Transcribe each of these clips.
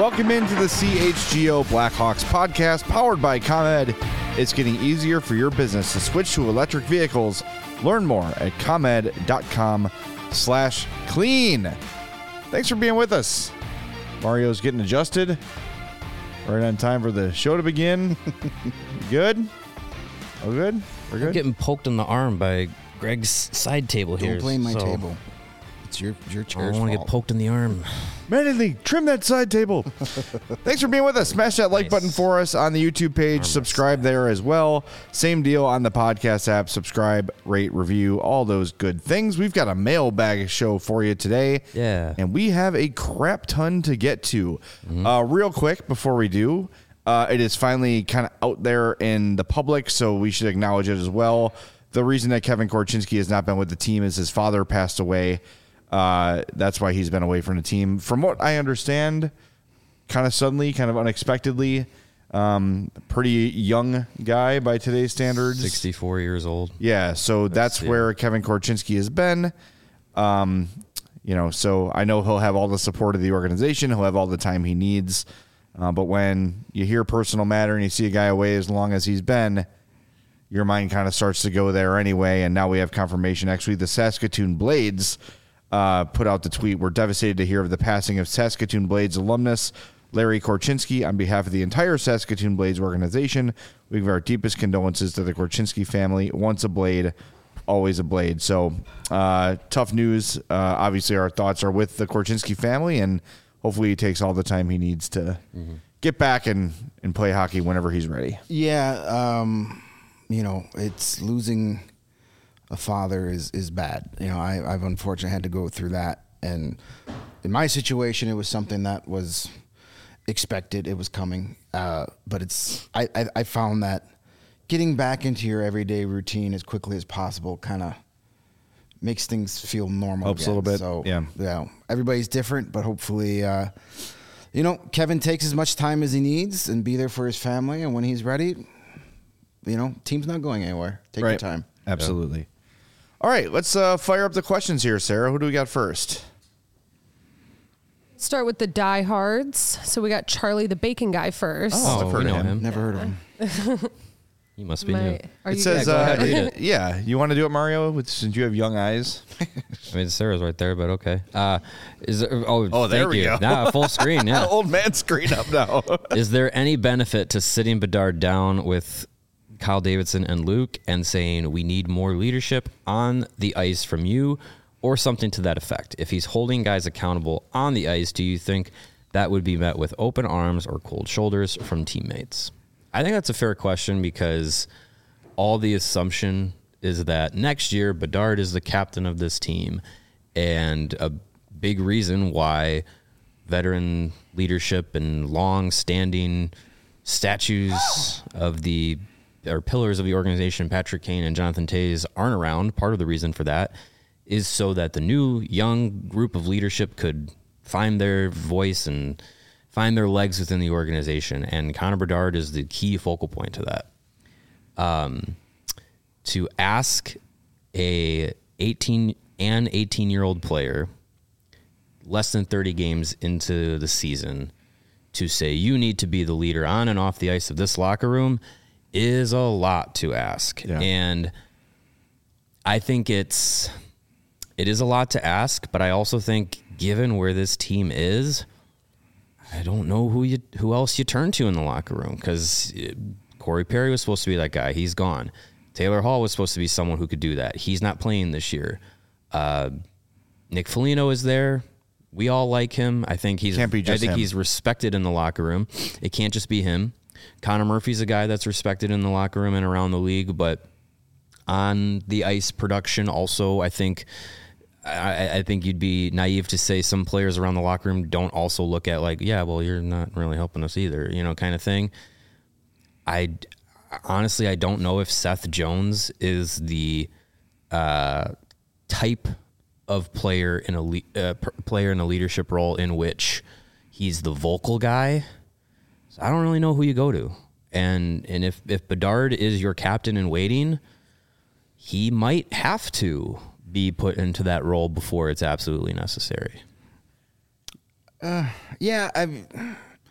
Welcome into the CHGO Blackhawks podcast powered by ComEd. It's getting easier for your business to switch to electric vehicles. Learn more at comed.com/clean. Thanks for being with us. Mario's getting adjusted. Right on time for the show to begin. Good? Oh, good? We're good? I'm getting poked in the arm by Greg's side table here. Don't blame my table. It's your chair's fault. I don't want to get poked in the arm. Manly, trim that side table. Thanks for being with us. Smash that like button for us on the YouTube page. Subscribe there as well. Same deal on the podcast app. Subscribe, rate, review, all those good things. We've got a mailbag show for you today. Yeah. And we have a crap ton to get to. Real quick before we do, it is finally kind of out there in the public, so we should acknowledge it as well. The reason that Kevin Korchinski has not been with the team is his father passed away. That's why he's been away from the team. From what I understand, kind of suddenly, kind of unexpectedly, pretty young guy by today's standards. 64 years old. Yeah, so that's where Kevin Korchinski has been. So I know he'll have all the support of the organization. He'll have all the time he needs. But when you hear personal matter and you see a guy away as long as he's been, your mind kind of starts to go there anyway. And now we have confirmation. Actually, the Saskatoon Blades put out the tweet. We're devastated to hear of the passing of Saskatoon Blades alumnus Larry Korchinski. On behalf of the entire Saskatoon Blades organization, we give our deepest condolences to the Korchinski family. Once a Blade, always a Blade. So tough news. Obviously, our thoughts are with the Korchinski family, and hopefully he takes all the time he needs to get back and play hockey whenever he's ready. Yeah, it's losing a father is bad. I've unfortunately had to go through that. And in my situation, it was something that was expected. It was coming. But I found that getting back into your everyday routine as quickly as possible kind of makes things feel normal. Helps again. a little bit. So, yeah. Everybody's different, but hopefully, Kevin takes as much time as he needs and be there for his family. And when he's ready, team's not going anywhere. Take your time. Absolutely. All right, let's fire up the questions here, Sarah. Who do we got first? Start with the diehards. So we got Charlie the Bacon Guy first. Oh, I've heard of him. Never heard of him. You must be new. Are It you says, go ahead, read it. yeah, you want to do it, Mario, since you have young eyes? I mean, Sarah's right there, but okay. There there we go. Nah, full screen, yeah. Old man screen up now. Is there any benefit to sitting Bedard down with Kyle Davidson and Luke and saying we need more leadership on the ice from you, or something to that effect? If he's holding guys accountable on the ice, do you think that would be met with open arms or cold shoulders from teammates? I think that's a fair question, because all the assumption is that next year Bedard is the captain of this team, and a big reason why veteran leadership and long-standing statues of pillars of the organization, Patrick Kane and Jonathan Toews, aren't around. Part of the reason for that is so that the new young group of leadership could find their voice and find their legs within the organization. And Connor Bedard is the key focal point to that. To ask a 18-year-old player less than 30 games into the season to say you need to be the leader on and off the ice of this locker room is a lot to ask. Yeah. And I think it is a lot to ask, but I also think given where this team is, I don't know who else you turn to in the locker room, because Corey Perry was supposed to be that guy. He's gone. Taylor Hall was supposed to be someone who could do that. He's not playing this year. Nick Foligno is there. We all like him. I think he's respected in the locker room. It can't just be him. Connor Murphy's a guy that's respected in the locker room and around the league, but on the ice production also, I think you'd be naive to say some players around the locker room don't also look at you're not really helping us either, kind of thing. I don't know if Seth Jones is the type of player in a leadership role in which he's the vocal guy. So I don't really know who you go to. And if Bedard is your captain in waiting, he might have to be put into that role before it's absolutely necessary. Yeah,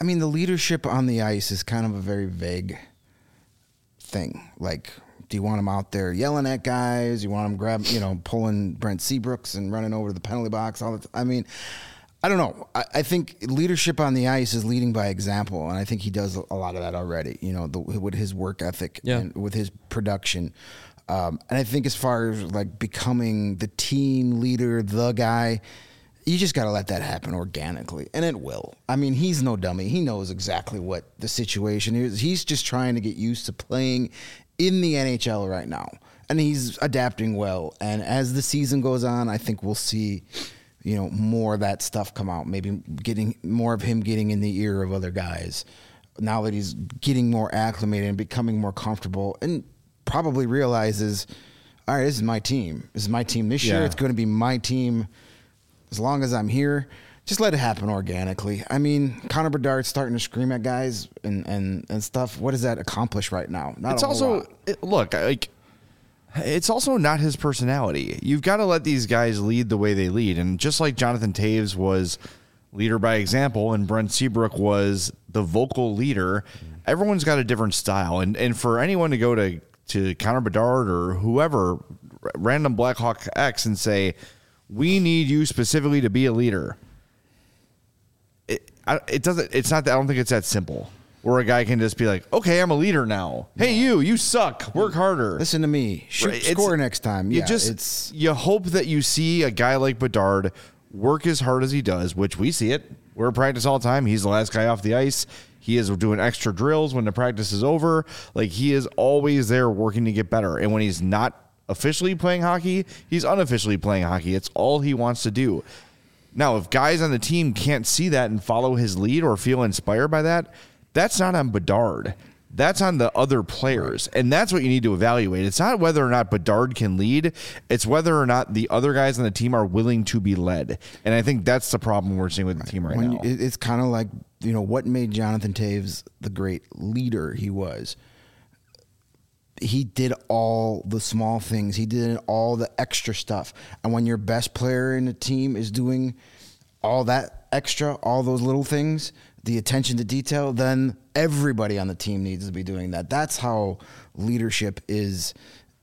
I mean, the leadership on the ice is kind of a very vague thing. Like, do you want him out there yelling at guys? You want him pulling Brent Seabrooks and running over to the penalty box all the time? I mean, I don't know. I think leadership on the ice is leading by example, and I think he does a lot of that already. With his work ethic and with his production. And I think as far as like becoming the team leader, the guy, you just got to let that happen organically, and it will. I mean, he's no dummy. He knows exactly what the situation is. He's just trying to get used to playing in the NHL right now, and he's adapting well. And as the season goes on, I think we'll see, more of that stuff come out. Maybe getting more of him getting in the ear of other guys now that he's getting more acclimated and becoming more comfortable, and probably realizes, all right, this is my team. This is my team this year. It's going to be my team as long as I'm here. Just let it happen organically. I mean, Connor Bedard's starting to scream at guys and stuff. What does that accomplish right now? Not it's a whole lot. It's also not his personality. You've got to let these guys lead the way they lead. And just like Jonathan Toews was leader by example and Brent Seabrook was the vocal leader, everyone's got a different style. And for anyone to go to Connor Bedard or whoever, random Blackhawk X, and say, we need you specifically to be a leader. It's not that. I don't think it's that simple. Where a guy can just be like, okay, I'm a leader now. Hey, you suck. Work harder. Listen to me. Score next time. You hope that you see a guy like Bedard work as hard as he does, which we see it. We're at practice all the time. He's the last guy off the ice. He is doing extra drills when the practice is over. Like, he is always there working to get better. And when he's not officially playing hockey, he's unofficially playing hockey. It's all he wants to do. Now, if guys on the team can't see that and follow his lead or feel inspired by that, that's not on Bedard. That's on the other players. And that's what you need to evaluate. It's not whether or not Bedard can lead. It's whether or not the other guys on the team are willing to be led. And I think that's the problem we're seeing with the team right now. It's kind of like, what made Jonathan Toews the great leader he was? He did all the small things. He did all the extra stuff. And when your best player in the team is doing all that extra, all those little things, the attention to detail, then everybody on the team needs to be doing that. That's how leadership is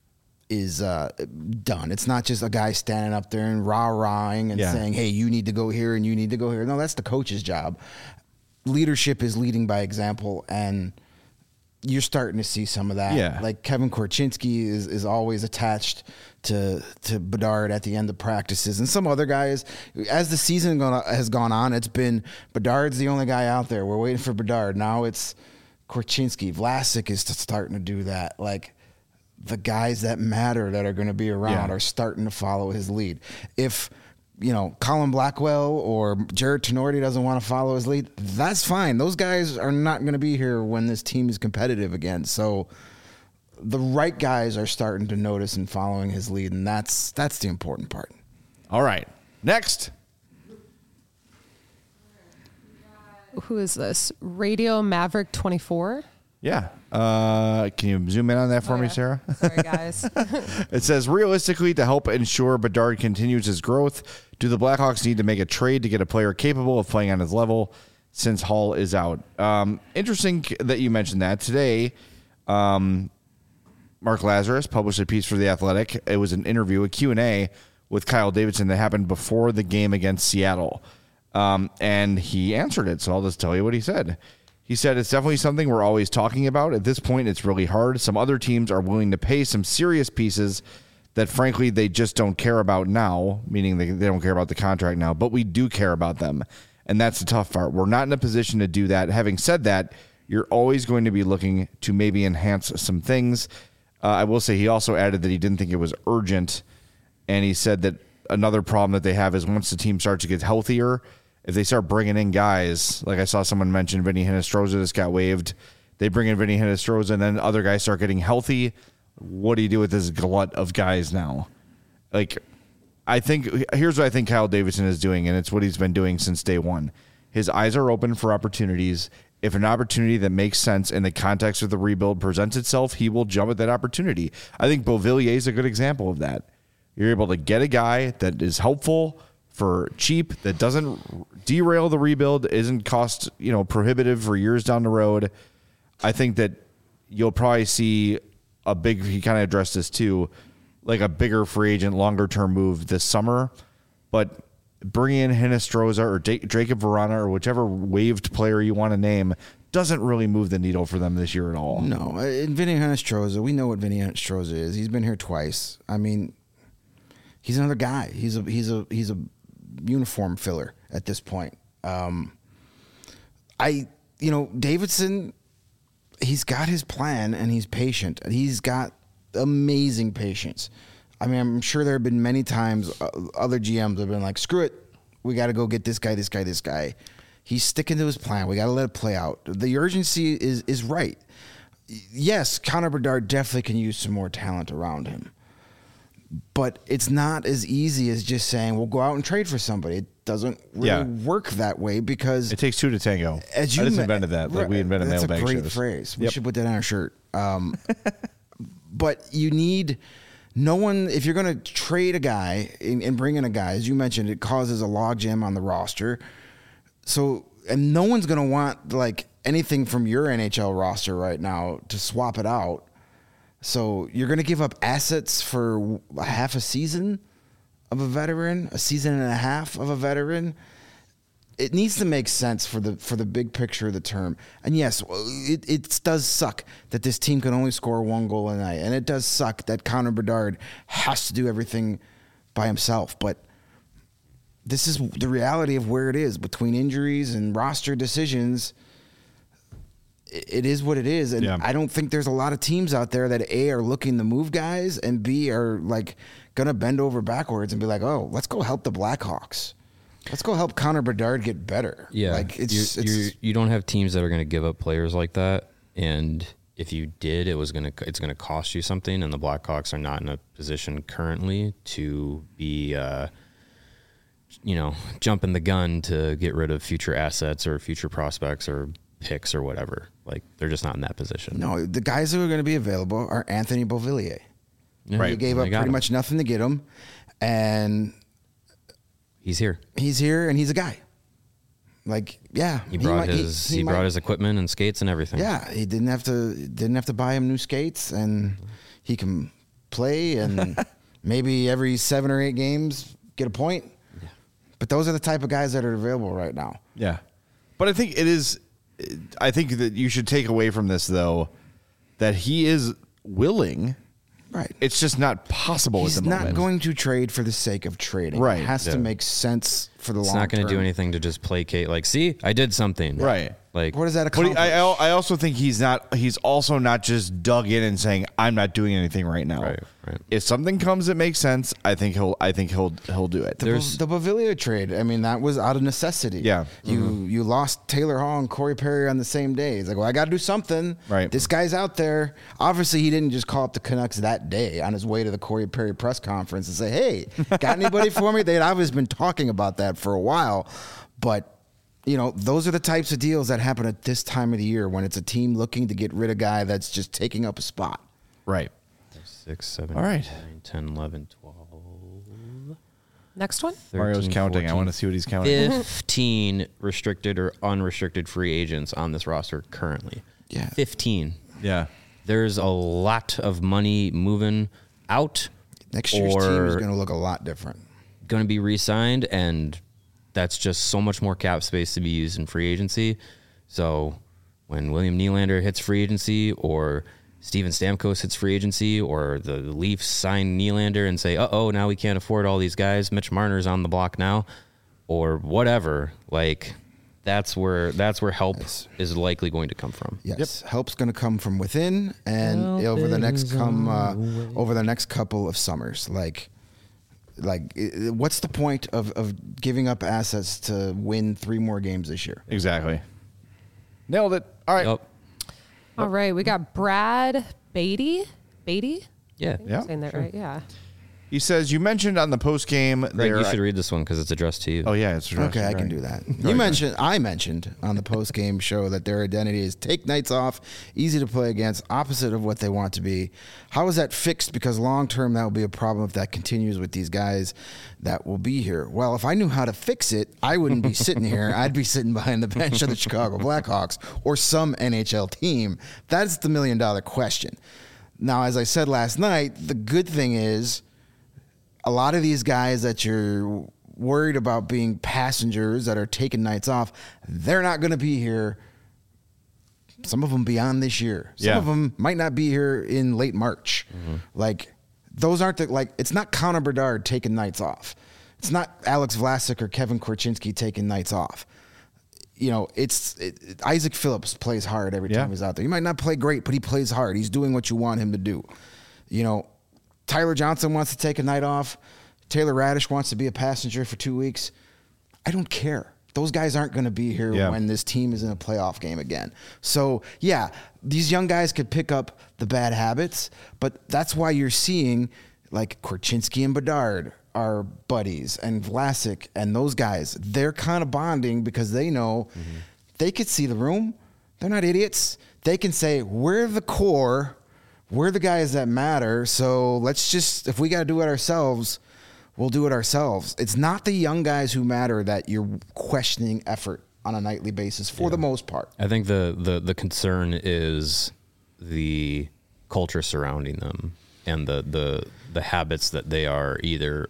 done. It's not just a guy standing up there and rah-rahing and saying, hey, you need to go here and you need to go here. No, that's the coach's job. Leadership is leading by example, and you're starting to see some of that. Yeah. Like Kevin Korchinski is always attached to Bedard at the end of practices, and some other guys. As the season has gone on, it's been Bedard's the only guy out there. We're waiting for Bedard. Now it's Korchinski. Vlasic is starting to do that. Like, the guys that matter that are going to be around are starting to follow his lead. If Colin Blackwell or Jared Tenorti doesn't want to follow his lead, that's fine. Those guys are not going to be here when this team is competitive again. So the right guys are starting to notice and following his lead, and that's the important part. All right. Next. Who is this? Radio Maverick 24? Yeah. Can you zoom in on that for me, Sarah? Sorry, guys. It says, realistically, to help ensure Bedard continues his growth, do the Blackhawks need to make a trade to get a player capable of playing on his level since Hall is out? Interesting that you mentioned that. Today, Mark Lazarus published a piece for The Athletic. It was an interview, a Q&A with Kyle Davidson that happened before the game against Seattle. And he answered it, so I'll just tell you what he said. He said, it's definitely something we're always talking about. At this point, it's really hard. Some other teams are willing to pay some serious pieces that, frankly, they just don't care about now, meaning they don't care about the contract now, but we do care about them. And that's the tough part. We're not in a position to do that. Having said that, you're always going to be looking to maybe enhance some things. I will say he also added that he didn't think it was urgent. And he said that another problem that they have is once the team starts to get healthier, if they start bringing in guys, like I saw someone mention Vinny Hinostroza just got waived. They bring in Vinny Hinostroza, and then other guys start getting healthy. What do you do with this glut of guys now? Like, I think here's what I think Kyle Davidson is doing, and it's what he's been doing since day one. His eyes are open for opportunities. If an opportunity that makes sense in the context of the rebuild presents itself, he will jump at that opportunity. I think Beauvillier is a good example of that. You're able to get a guy that is helpful for cheap that doesn't derail the rebuild, isn't cost prohibitive for years down the road. I think that you'll probably see a big. He kind of addressed this too, like a bigger free agent, longer term move this summer, but. Bringing in Hinostroza or Jacob Verana or whichever waived player you want to name doesn't really move the needle for them this year at all. No, and Vinny Hinostroza, we know what Vinny Hinostroza is. He's been here twice. I mean, he's another guy. He's a uniform filler at this point. Davidson, he's got his plan and he's patient. He's got amazing patience. I mean, I'm sure there have been many times other GMs have been like, screw it. We got to go get this guy. He's sticking to his plan. We got to let it play out. The urgency is right. Yes, Connor Bedard definitely can use some more talent around him. But it's not as easy as just saying, we'll go out and trade for somebody. It doesn't really work that way because... It takes two to tango. I just invented that. Like we invented mailbag shows. That's a great phrase. We should put that on our shirt. But you need... No one, if you're going to trade a guy and bring in a guy, as you mentioned, it causes a logjam on the roster. So, and no one's going to want like anything from your NHL roster right now to swap it out. So you're going to give up assets for a half a season of a veteran, a season and a half of a veteran. It needs to make sense for the big picture of the term. And yes, it does suck that this team can only score one goal a night. And it does suck that Connor Bedard has to do everything by himself. But this is the reality of where it is. Between injuries and roster decisions, it is what it is. And I don't think there's a lot of teams out there that A, are looking to move guys, and B, are like going to bend over backwards and be like, oh, let's go help the Blackhawks. Let's go help Connor Bedard get better. Yeah, like you don't have teams that are going to give up players like that, and if you did, it's going to cost you something. And the Blackhawks are not in a position currently to be, jumping the gun to get rid of future assets or future prospects or picks or whatever. Like they're just not in that position. No, the guys who are going to be available are Anthony Beauvillier. Yeah, right, you gave up pretty much nothing to get him, and. He's here, and he's a guy. Like, he brought his equipment and skates and everything. Yeah, he didn't have to buy him new skates, and he can play and maybe every 7 or 8 games get a point. Yeah. But those are the type of guys that are available right now. Yeah, but I think that you should take away from this though that he is willing. Right. It's just not possible at the moment. He's not going to trade for the sake of trading. Right. It has to make sense for the long term. It's not going to do anything to just placate. Like, see, I did something. Right. Like, what does that accomplish? I also think he's also not just dug in and saying, I'm not doing anything right now. Right. If something comes that makes sense, I think he'll do it. The Beauvillier trade, I mean, that was out of necessity. Yeah. You lost Taylor Hall and Corey Perry on the same day. It's like, well, I got to do something. Right. This guy's out there. Obviously, he didn't just call up the Canucks that day on his way to the Corey Perry press conference and say, hey, got anybody for me? They'd obviously been talking about that for a while. But those are the types of deals that happen at this time of the year when it's a team looking to get rid of a guy that's just taking up a spot. Right. 6, 7, all right. 9, 10, 11, 12. Next one. 13, Mario's counting. 14, I want to see what he's counting. 15 restricted or unrestricted free agents on this roster currently. Yeah. 15. Yeah. There's a lot of money moving out. Next year's team is going to look a lot different. Going to be re-signed, and that's just so much more cap space to be used in free agency. So when William Nylander hits free agency, or Steven Stamkos hits free agency, or the Leafs sign Nylander and say, now we can't afford all these guys, Mitch Marner's on the block now, or whatever, like that's where help is likely going to come from. Yes, help's going to come from within, and over the next couple of summers. Like, what's the point of giving up assets to win 3 more games this year? Exactly. Nailed it. All right. Yep. All right, we got Brad Beatty. Beatty? Yeah. I'm saying that right, yeah. He says, you mentioned on the post game. Greg, you should read this one because it's addressed to you. Oh, yeah, it's addressed. Okay, I can do that. I mentioned on the post game show that their identity is take nights off, easy to play against, opposite of what they want to be. How is that fixed? Because long term, that will be a problem if that continues with these guys that will be here. Well, if I knew how to fix it, I wouldn't be sitting here. I'd be sitting behind the bench of the Chicago Blackhawks or some NHL team. That's the $1 million question. Now, as I said last night, the good thing is, a lot of these guys that you're worried about being passengers that are taking nights off, they're not going to be here. Some of them beyond this year. Some of them might not be here in late March. Mm-hmm. Like, those aren't it's not Connor Bedard taking nights off. It's not Alex Vlasic or Kevin Korchinski taking nights off. You know, Isaac Phillips plays hard every time he's out there. He might not play great, but he plays hard. He's doing what you want him to do. You know, Tyler Johnson wants to take a night off. Taylor Radish wants to be a passenger for 2 weeks. I don't care. Those guys aren't going to be here when this team is in a playoff game again. So, yeah, these young guys could pick up the bad habits, but that's why you're seeing like Korchinski and Bedard are buddies, and Vlasic and those guys. They're kind of bonding because they know they could see the room. They're not idiots. They can say, we're the core. We're the guys that matter, so let's just, if we got to do it ourselves, we'll do it ourselves. It's not the young guys who matter that you're questioning effort on a nightly basis for the most part. I think the concern is the culture surrounding them and the habits that they are either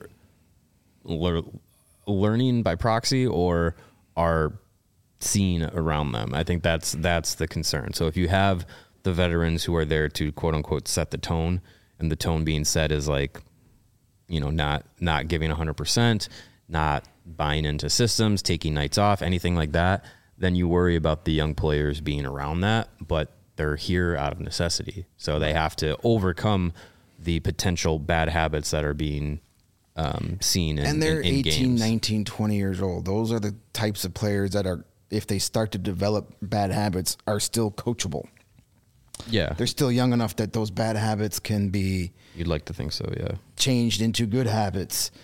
learning by proxy or are seeing around them. I think that's the concern. So if you have the veterans who are there to quote unquote set the tone, and the tone being set is like, you know, not giving 100%, not buying into systems, taking nights off, anything like that, then you worry about the young players being around that, but they're here out of necessity. So they have to overcome the potential bad habits that are being seen in and they're in 18, games. 19, 20 years old. Those are the types of players that are, if they start to develop bad habits, are still coachable. Yeah. They're still young enough that those bad habits can be... You'd like to think so, yeah. ...changed into good habits.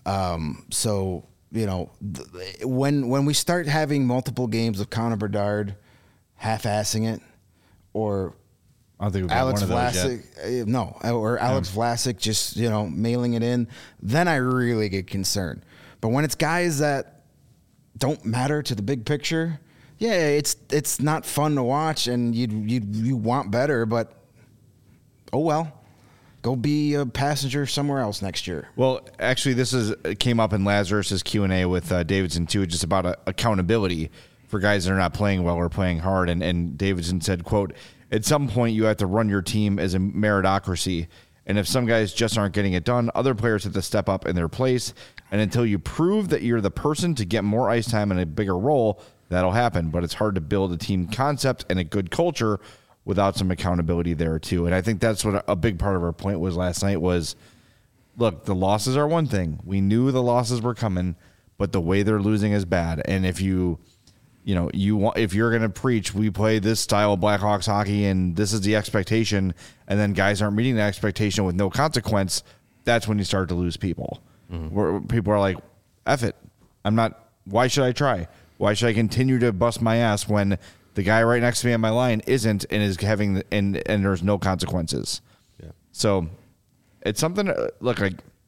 So, you know, when we start having multiple games of Connor Bedard half-assing it, or I don't think we've Alex got one of those Vlasic, or Alex Vlasic just, you know, mailing it in, then I really get concerned. But when it's guys that don't matter to the big picture... Yeah, it's not fun to watch, and you want better, but oh well, go be a passenger somewhere else next year. Well, actually, this came up in Lazarus's Q&A with Davidson too, just about accountability for guys that are not playing well or playing hard, and Davidson said, "quote At some point, you have to run your team as a meritocracy, and if some guys just aren't getting it done, other players have to step up in their place, and until you prove that you're the person to get more ice time and a bigger role." That'll happen, but it's hard to build a team concept and a good culture without some accountability there too. And I think that's what a big part of our point was last night was, look, the losses are one thing. We knew the losses were coming, but the way they're losing is bad. And if if you're going to preach, we play this style of Blackhawks hockey and this is the expectation, and then guys aren't meeting the expectation with no consequence, that's when you start to lose people. Where people are like, F it. Why should I try? Why should I continue to bust my ass when the guy right next to me on my line isn't and is having and there's no consequences? Yeah. So it's something. Look,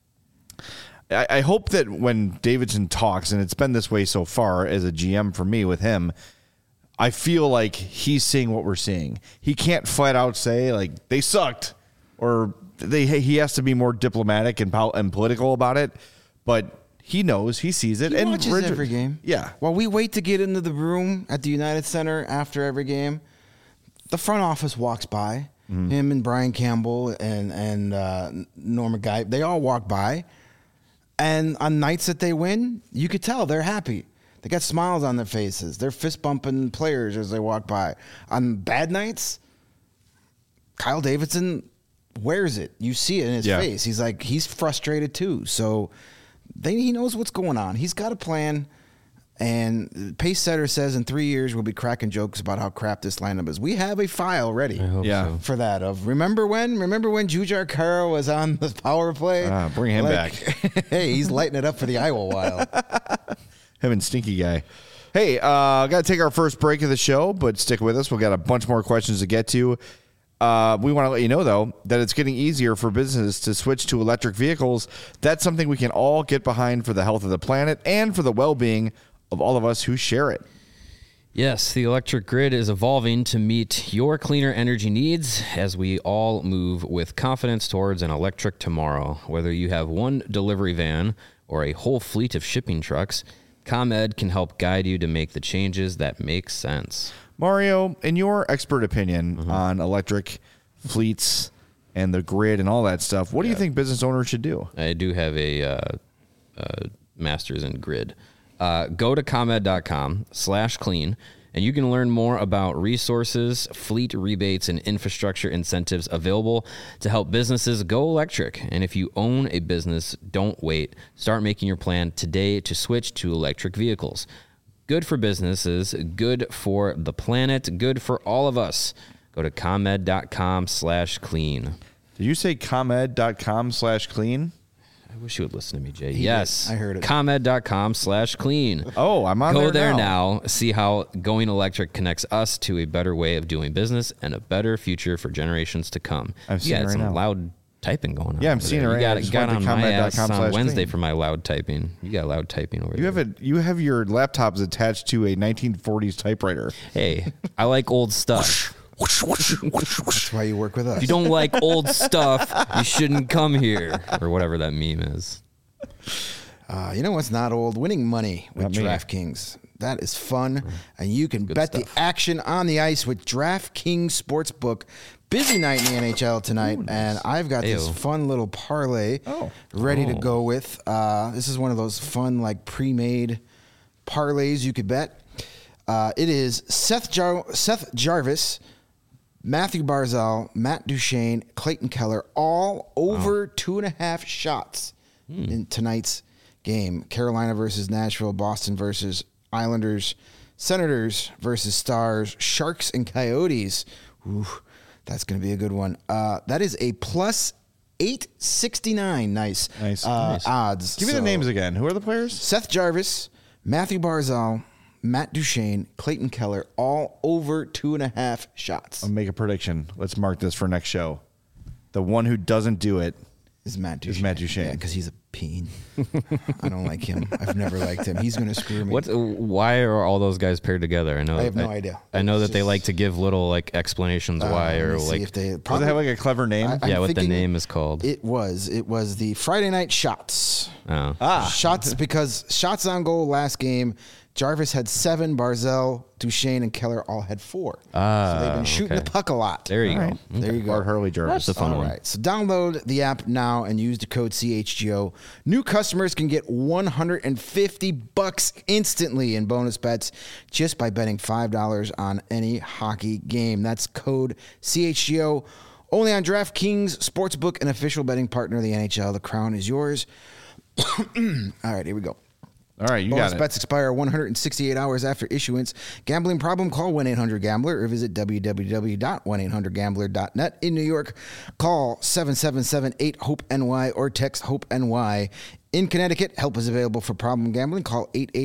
I hope that when Davidson talks, and it's been this way so far as a GM for me with him, I feel like he's seeing what we're seeing. He can't flat out say like they sucked, or he has to be more diplomatic and political about it, but. He knows. He sees it. He watches every game. Yeah. While we wait to get into the room at the United Center after every game, the front office walks by. Mm-hmm. Him and Brian Campbell and Norman Guy, they all walk by. And on nights that they win, you could tell they're happy. They got smiles on their faces. They're fist-bumping players as they walk by. On bad nights, Kyle Davidson wears it. You see it in his face. He's frustrated too. So... he knows what's going on. He's got a plan, And Pace Setter says in 3 years we'll be cracking jokes about how crap this lineup is. We have a file ready I hope so. for that. Of remember when Jujhar Khaira was on the power play? Bring him back. Hey, he's lighting it up for the Iowa Wild. Him and Stinky Guy. Hey, got to take our first break of the show, but stick with us. We've got a bunch more questions to get to. We want to let you know, though, that it's getting easier for businesses to switch to electric vehicles. That's something we can all get behind for the health of the planet and for the well-being of all of us who share it. Yes, the electric grid is evolving to meet your cleaner energy needs as we all move with confidence towards an electric tomorrow. Whether you have one delivery van or a whole fleet of shipping trucks, ComEd can help guide you to make the changes that make sense. Mario, in your expert opinion on electric fleets and the grid and all that stuff, what do you think business owners should do? I do have a master's in grid. Go to ComEd.com/clean, and you can learn more about resources, fleet rebates, and infrastructure incentives available to help businesses go electric. And if you own a business, don't wait. Start making your plan today to switch to electric vehicles. Good for businesses, good for the planet, good for all of us. Go to ComEd.com/clean. Did you say ComEd.com/clean? I wish you would listen to me, Jay. Yes. I heard it. ComEd.com/clean. Oh, I'm on Go there there now. See how going electric connects us to a better way of doing business and a better future for generations to come. I'm seeing it right some now. loud typing going on. Yeah, I'm over seeing there. it right You now. I got, just got went to on my ass on ComEd.com/clean. Wednesday for my loud typing. You got loud typing over there. You have your laptops attached to a 1940s typewriter. Hey, I like old stuff. That's why you work with us. If you don't like old stuff, you shouldn't come here. Or whatever that meme is. You know what's not old? Winning money with Not me. DraftKings. That is fun, and you can bet stuff. the action on the ice with DraftKings Sportsbook. Busy night in the NHL tonight, and I've got this Ayo. fun little parlay ready to go with. This is one of those fun, like pre-made parlays you could bet. It is Seth Jarvis, Matthew Barzal, Matt Duchene, Clayton Keller, all over 2.5 shots in tonight's game. Carolina versus Nashville, Boston versus Islanders, Senators versus Stars, Sharks and Coyotes. Ooh, that's going to be a good one. That is a plus 869. Nice. Odds. Give me the names again. Who are the players? Seth Jarvis, Matthew Barzal, Matt Duchene, Clayton Keller, all over 2.5 shots. I'll make a prediction. Let's mark this for next show. The one who doesn't do it Is Matt Duchene. Duchene. Yeah, because he's a peen. I don't like him. I've never liked him. He's going to screw me. Why are all those guys paired together? I have no idea. I know It's that they just- like to give little like explanations why, Let or me see like if they Does it have like a clever name? I'm what the thinking name is called. It was the Friday night shots. Oh. Shots because shots on goal last game. Jarvis had 7. Barzell, Duchene, and Keller all had 4. So they've been shooting okay. the puck a lot. There you All go. right. There you go. Art Hurley Jarvis. That's a fun All one. right. So download the app now and use the code CHGO. New customers can get $150 instantly in bonus bets just by betting $5 on any hockey game. That's code CHGO. Only on DraftKings Sportsbook, an official betting partner of the NHL. The crown is yours. All right, here we go. All right, you Bonus got it. bets expire 168 hours after issuance. Gambling problem? Call 1-800-GAMBLER or visit www.1800gambler.net. In New York, call 777-8-HOPE-NY or text HOPE-NY. In Connecticut, help is available for problem gambling. Call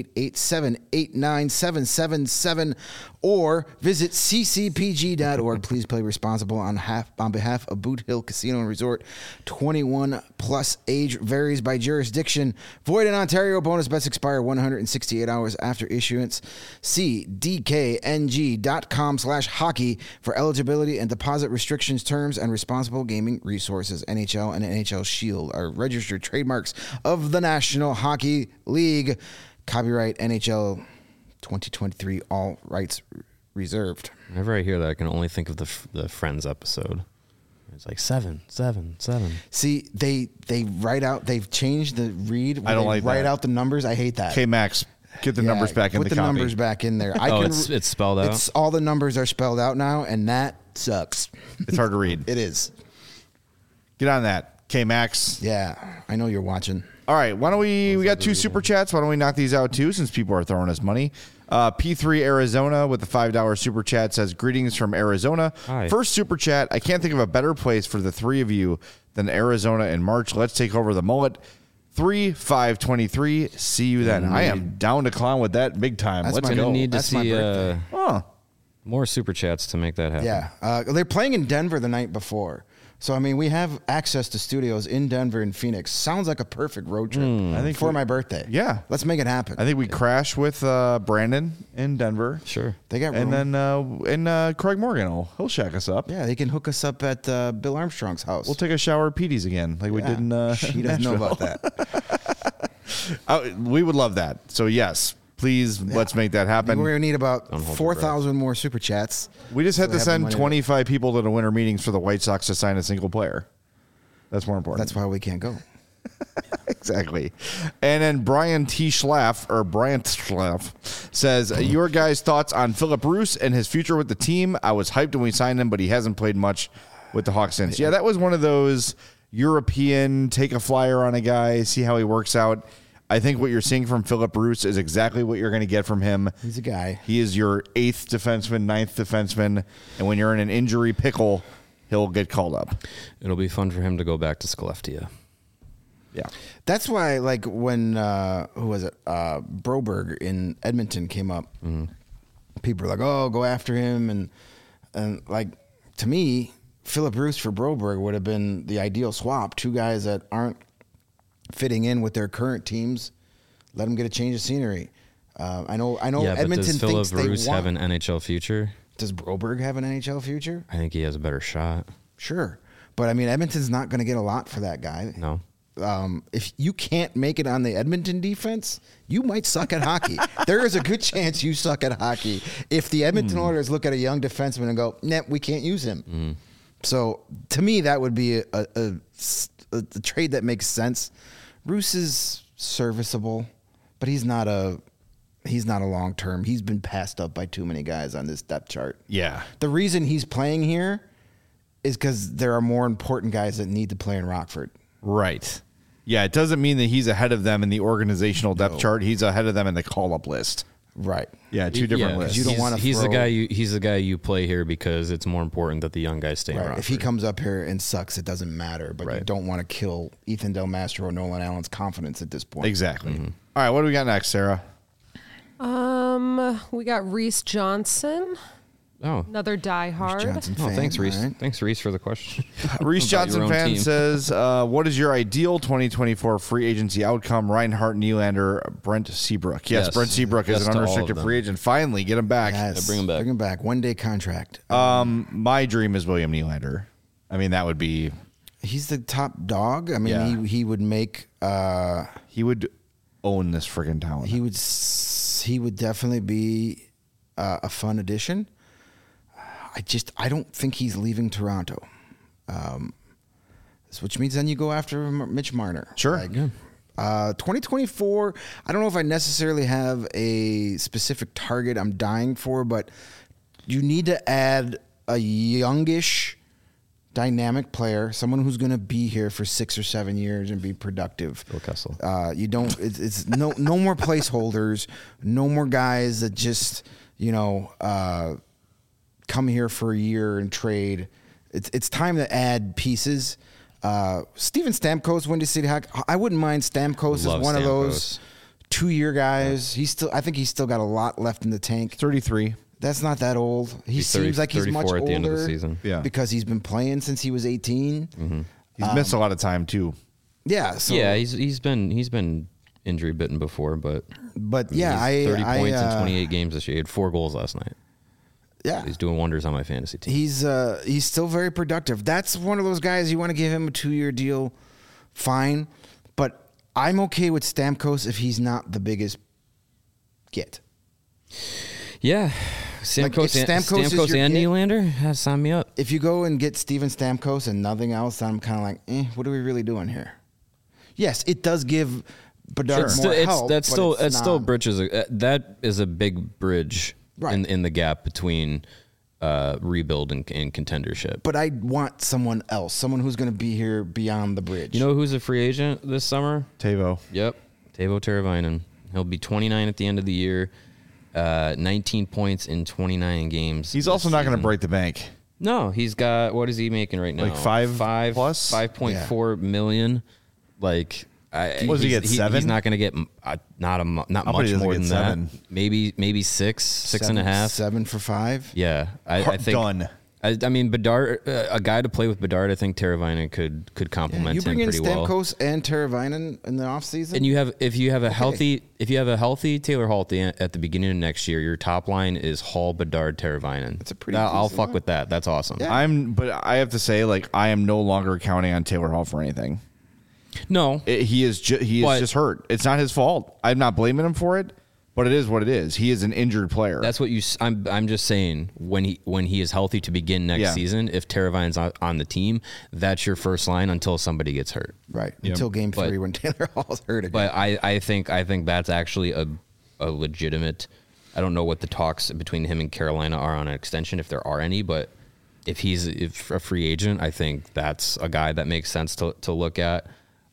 888-789-777 or visit ccpg.org. Please play responsible on behalf of Boot Hill Casino and Resort. 21 plus, age varies by jurisdiction. Void in Ontario. Bonus bets expire 168 hours after issuance. See dkng.com/hockey for eligibility and deposit restrictions, terms, and responsible gaming resources. NHL and NHL Shield are registered trademarks of the National Hockey League. Copyright NHL 2023, all rights reserved. Whenever I hear that, I can only think of the Friends episode. It's like 7, 7, 7. See, they write out, they've changed the read. I don't they like write that. out the numbers. I hate that. Okay, Max, get the Yeah, numbers back in put the the copy. numbers back in there. It's spelled out? It's all the numbers are spelled out now, and that sucks. It's hard to read. It is. Get on that. K-Max. Yeah, I know you're watching. All right, why don't we got 2 super chats. Why don't we knock these out too, since people are throwing us money? P3 Arizona with the $5 super chat says, greetings from Arizona. Hi. First super chat, I can't think of a better place for the 3 of you than Arizona in March. Let's take over the mullet. 3/5/23. See you then. I am down to clown with that big time. That's Let's my go. Need to That's my see birthday. more super chats to make that happen. Yeah, they're playing in Denver the night before. So, I mean, we have access to studios in Denver and Phoenix. Sounds like a perfect road trip I think for my birthday. Yeah. Let's make it happen. I think we crash with Brandon in Denver. Sure. They got room. And then Craig Morgan he'll shack us up. Yeah, they can hook us up at Bill Armstrong's house. We'll take a shower at Petey's again, like we did in She doesn't know Nashville. about that. We would love that. So, yes, please, let's make that We're happen. going to need about hold your 4,000 more super chats. We just had So to we have send the money. 25 people to the winter meetings for the White Sox to sign a single player. That's more important. That's why we can't go. Exactly. And then Brian Schlaff says, your guys' thoughts on Philip Roos and his future with the team. I was hyped when we signed him, but he hasn't played much with the Hawks since. Yeah, that was one of those European, take a flyer on a guy, see how he works out. I think what you're seeing from Philip Roos is exactly what you're going to get from him. He's a guy. He is your 8th defenseman, 9th defenseman, and when you're in an injury pickle, he'll get called up. It'll be fun for him to go back to Skellefteå. Yeah. That's why, like, when, who was it? Broberg in Edmonton came up, people were like, oh, go after him. And like, to me, Philip Roos for Broberg would have been the ideal swap. 2 guys that aren't fitting in with their current teams. Let them get a change of scenery. I know Yeah, but Edmonton does thinks Philip they Roos want. have an NHL future? Does Broberg have an NHL future? I think he has a better shot. Sure. But, I mean, Edmonton's not going to get a lot for that guy. No. If you can't make it on the Edmonton defense, you might suck at hockey. There is a good chance you suck at hockey if the Edmonton Oilers look at a young defenseman and go, nah, we can't use him. So to me, that would be a trade that makes sense. Roos is serviceable, but he's not a long term. He's been passed up by too many guys on this depth chart. Yeah. The reason he's playing here is because there are more important guys that need to play in Rockford. Right. Yeah, it doesn't mean that he's ahead of them in the organizational depth chart. He's ahead of them in the call-up list. Right. Yeah, 2 different lists. You don't wanna He's the throw- guy. He's the guy you play here because it's more important that the young guys stay Right. around. If he comes up here and sucks, it doesn't matter. But you Right. don't want to kill Ethan Del Mastro or Nolan Allen's confidence at this point. Exactly. All right, what do we got next, Sarah? We got Reese Johnson, Oh. another diehard. Johnson Oh, fan, thanks, Reese. all right? Thanks, Reese, for the question. Reese About Johnson your own fan team. says, what is your ideal 2024 free agency outcome? Reinhart, Nylander, Brent Seabrook. Yes, Yes. Brent Seabrook is Yes an to all of unrestricted them. free agent. Finally, get him back. Yes. bring him back. Bring him back. 1-day contract. My dream is William Nylander. I mean, that would be, He's the top dog. I mean, Yeah. he would make. he would own this friggin' town. He would definitely be a fun addition. I don't think he's leaving Toronto. Which means then you go after Mitch Marner. Sure. 2024, I don't know if I necessarily have a specific target I'm dying for, but you need to add a youngish, dynamic player, someone who's going to be here for 6 or 7 years and be productive. Phil Kessel. You don't. It's no more placeholders, no more guys that just come here for a year and trade. It's time to add pieces. Steven Stamkos, Windy City Hawk. I wouldn't mind Stamkos as Love one of Stamkos. those 2-year guys. I think he's still got a lot left in the tank. 33. That's not that old. He He's seems like he's much 34 at the end of the older season. Yeah. because he's been playing since he was 18. He's missed a lot of time, too. Yeah. So, Yeah, he's been injury bitten before, but yeah, he's 30 I points in 28 games this year. He had 4 goals last night. Yeah. He's doing wonders on my fantasy team. He's still very productive. That's one of those guys you want to give him a 2-year deal, fine. But I'm okay with Stamkos if he's not the biggest get. Yeah, Stamkos, if Stamkos is your and kid- Nylander, sign me up. If you go and get Steven Stamkos and nothing else, I'm kind of like, what are we really doing here? Yes, it does give Bedard more help. That's but still not- bridges. That is a big bridge Right. in the gap between rebuild and contendership. But I want someone else, someone who's going to be here beyond the bridge. You know who's a free agent this summer? Tavo. Yep, Teuvo Teravainen. He'll be 29 at the end of the year. 19 points in 29 games. He's also not going to break the bank. No, he's got, what is he making right now? Like five plus? 5.4 million. Like, What does he get, 7? He's not going to get not much he more doesn't than get that. 7. Maybe 6 and a half. 7 for 5. Yeah, I think Done. I mean, Bedard, a guy to play with Bedard, I think Teravainen could complement You him bring in pretty well. Stamkos and Teravainen in the offseason? And if you have a healthy Taylor Hall at the beginning of next year, your top line is Hall, Bedard, Teravainen. That's a pretty I'll decent fuck line. with that. That's awesome. Yeah. But I have to say, like, I am no longer counting on Taylor Hall for anything. No, He is just hurt. It's not his fault. I'm not blaming him for it, but it is what it is. He is an injured player. that's what I'm just saying. When he is healthy to begin next season, if Teravainen's on the team, that's your first line until somebody gets hurt. Right. Until game 3 when Taylor Hall's hurt again. But I think that's actually a legitimate. I don't know what the talks between him and Carolina are on an extension, if there are any. But if he's a free agent, I think that's a guy that makes sense to look at.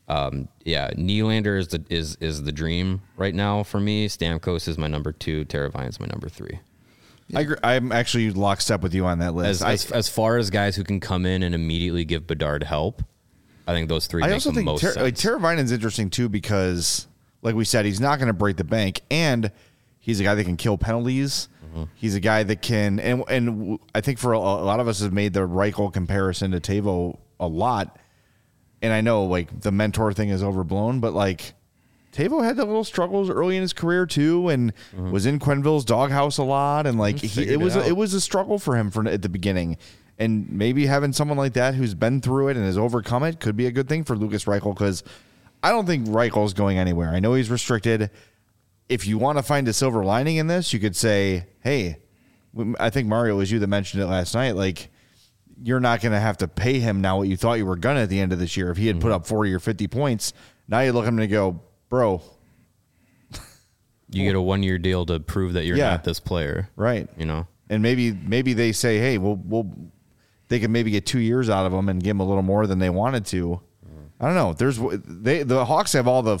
Nylander is the dream right now for me. Stamkos is my number 2. Teravainen's my number 3. I agree. I'm actually lockstep with you on that list. As far as guys who can come in and immediately give Bedard help, I think those 3 I make also the think most sense. Teravainen's interesting too because, like we said, he's not going to break the bank, and he's a guy that can kill penalties. Mm-hmm. He's a guy that can, and I think for a lot of us have made the Reichel comparison to Tavo a lot. And I know, like, the mentor thing is overblown, but, like, Tavo had the little struggles early in his career, too, and was in Quenneville's doghouse a lot. And, like, it was a struggle for him at the beginning. And maybe having someone like that who's been through it and has overcome it could be a good thing for Lucas Reichel, because I don't think Reichel's going anywhere. I know he's restricted. If you want to find a silver lining in this, you could say, hey, I think, Mario, it was you that mentioned it last night, like, you're not going to have to pay him now what you thought you were going to at the end of this year. If he had put up 40 or 50 points, now you look at him and go, bro. You get a 1-year deal to prove that you're not this player. Right. You know? And maybe they say, hey, they can maybe get 2 years out of him and give him a little more than they wanted to. I don't know. The Hawks have all the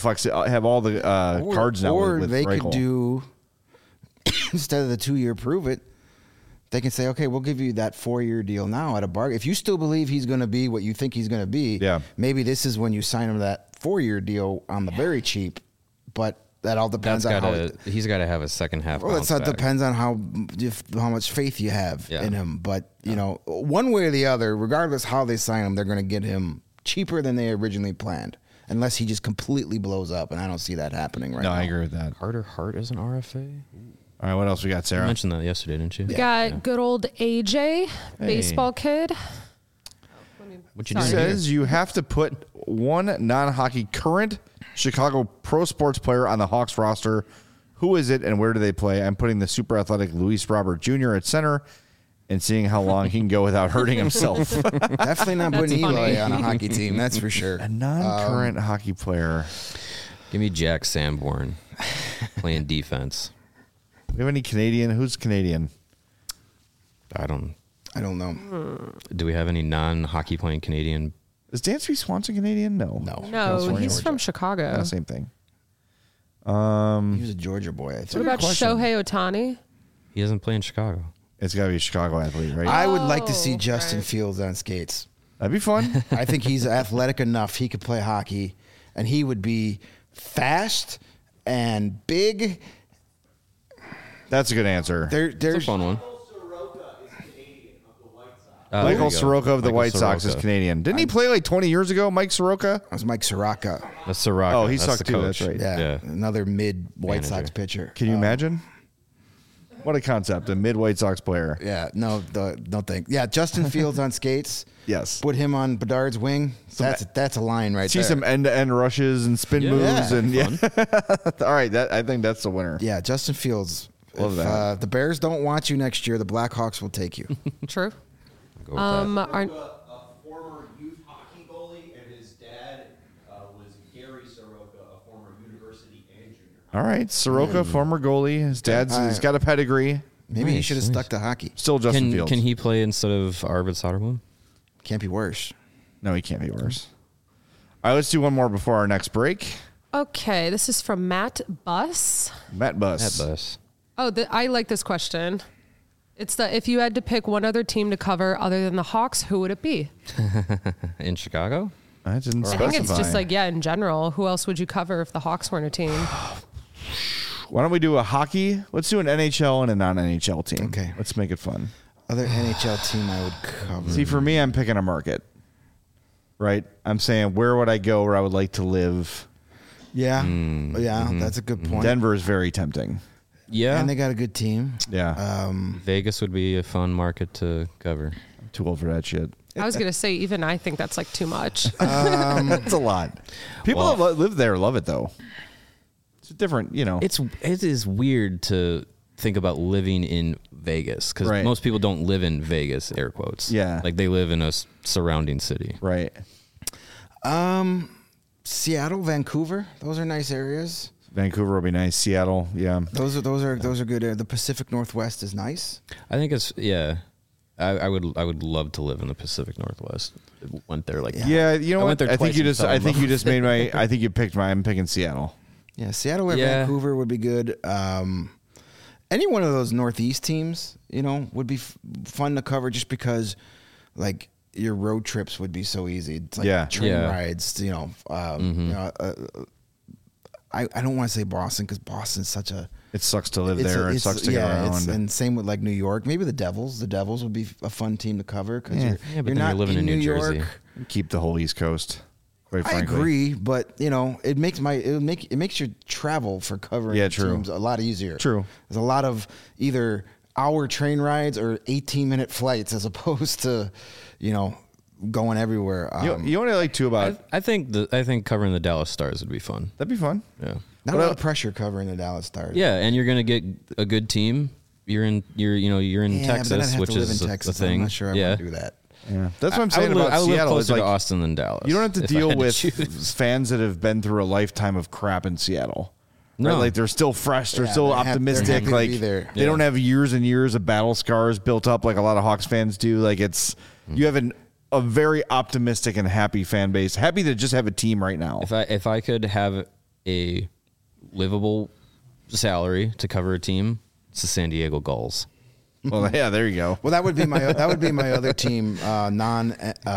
cards now. Or with they Reichel. could do, instead of the 2-year prove it, they can say, okay, we'll give you that 4-year deal now at a bargain. If you still believe he's going to be what you think he's going to be, maybe this is when you sign him that 4-year deal on the very cheap. But that all depends on how he's got to have a second half. Well, that depends on how much faith you have in him. But you know, one way or the other, regardless how they sign him, they're going to get him cheaper than they originally planned, unless he just completely blows up. And I don't see that happening right now. No, I agree with that. Carter Hart is an RFA. All right, what else we got, Sarah? You mentioned that yesterday, didn't you? We got good old AJ, baseball kid. What you It doing says you have to put one non-hockey current Chicago pro sports player on the Hawks roster. Who is it and where do they play? I'm putting the super athletic Luis Robert Jr. at center and seeing how long he can go without hurting himself. Definitely not putting That's Eli funny. on a hockey team. That's for sure. A non-current hockey player. Give me Jack Sanborn playing defense. Do we have any Canadian? Who's Canadian? I don't know. Do we have any non-hockey playing Canadian? Is Dansby Swanson Canadian? No. No, he's from Chicago. Yeah, same thing. He was a Georgia boy, I think. What about Shohei Ohtani? He doesn't play in Chicago. It's got to be a Chicago athlete, right? I would like to see Justin Fields on skates. That'd be fun. I think he's athletic enough. He could play hockey, and he would be fast and big. That's a good answer. It's a There's fun one. Michael Soroka of the White Sox is Canadian. Didn't he play like 20 years ago, Mike Soroka? That was Mike Soroka. That's Soroka. Oh, he That's sucked the too. coach. That's right. Yeah, another mid White Sox pitcher. Can you imagine? What a concept. A mid White Sox player. Yeah, no think. Yeah, Justin Fields on skates. Yes. Put him on Bedard's wing. That's a line right See there. some end-to-end rushes and spin moves. And all right, I think that's the winner. Yeah, Justin Fields. Love if that. The Bears don't want you next year, the Blackhawks will take you. True. Go with that. Our, A former youth hockey goalie, and his dad was Gary Soroka, a former university and junior. All right, Soroka, former goalie. His dad's he's got a pedigree. Maybe he Nice, should have nice. stuck to hockey. Still Justin Fields. Can he play instead of Arvid Soderblom? Can't be worse. No, he can't be worse. All right, let's do one more before our next break. Okay, this is from Matt Buss. Matt Buss. That bus. Oh, I like this question. It's if you had to pick one other team to cover other than the Hawks, who would it be? In Chicago? I didn't I specify. think it's just like, yeah, in general. Who else would you cover if the Hawks weren't a team? Why don't we do a hockey? Let's do an NHL and a non-NHL team. Okay. Let's make it fun. Other NHL team I would cover. See, for me, I'm picking a market. Right? I'm saying, where would I go where I would like to live? Yeah. That's a good point. Denver is very tempting. Yeah. And they got a good team. Yeah. Vegas would be a fun market to cover. I'm too old for that shit. I was going to say, even I think that's like too much. That's a lot. People Well- that live there love it, though. It's different, you know. It is weird to think about living in Vegas because Right. most people don't live in Vegas, air quotes. Yeah. Like they live in a surrounding city. Right. Seattle, Vancouver. Those are nice areas. Vancouver would be nice. Seattle, yeah. Those are good. The Pacific Northwest is nice. I think it's I would love to live in the Pacific Northwest. Went there like Yeah, you know I what? went there I think twice you and just fell in love made with my I think you picked my I'm picking Seattle. Yeah, Seattle or Yeah. Vancouver would be good. Any one of those Northeast teams, would be fun to cover just because, like, your road trips would be so easy. It's like Yeah. train Yeah. rides. I don't want to say Boston because Boston's such a. It sucks to live there. It sucks to get around. And same with like New York. Maybe the Devils. The Devils would be a fun team to cover because Yeah. Yeah, but you're then not you're living in New York. Jersey. Keep the whole East Coast. Quite I frankly. agree, but it makes your travel for covering true. teams a lot easier. True. There's a lot of either hour train rides or 18-minute flights as opposed to, going everywhere. You know what I like too about I think covering the Dallas Stars would be fun. that'd be fun. Yeah. Not a What lot of pressure covering the Dallas Stars. Yeah, and you're gonna get a good team. You're in Yeah, Texas, but then I'd have which to live is in the Texas. thing. I'm not sure I yeah. want to do that. Yeah, that's what I'm saying I would about live Seattle. Is closer like to Austin than Dallas. you don't have to if I deal had to with choose. fans that have been through a lifetime of crap in Seattle. No. Right? Like they're still fresh. They're Yeah, still they're happy optimistic. to Like be there. they don't have years and years of battle scars built up like a lot of Hawks fans do. Like you have a very optimistic and happy fan base, happy to just have a team right now. If I could have a livable salary to cover a team, it's the San Diego Gulls. Well, yeah, there you go. Well, that would be my other team, non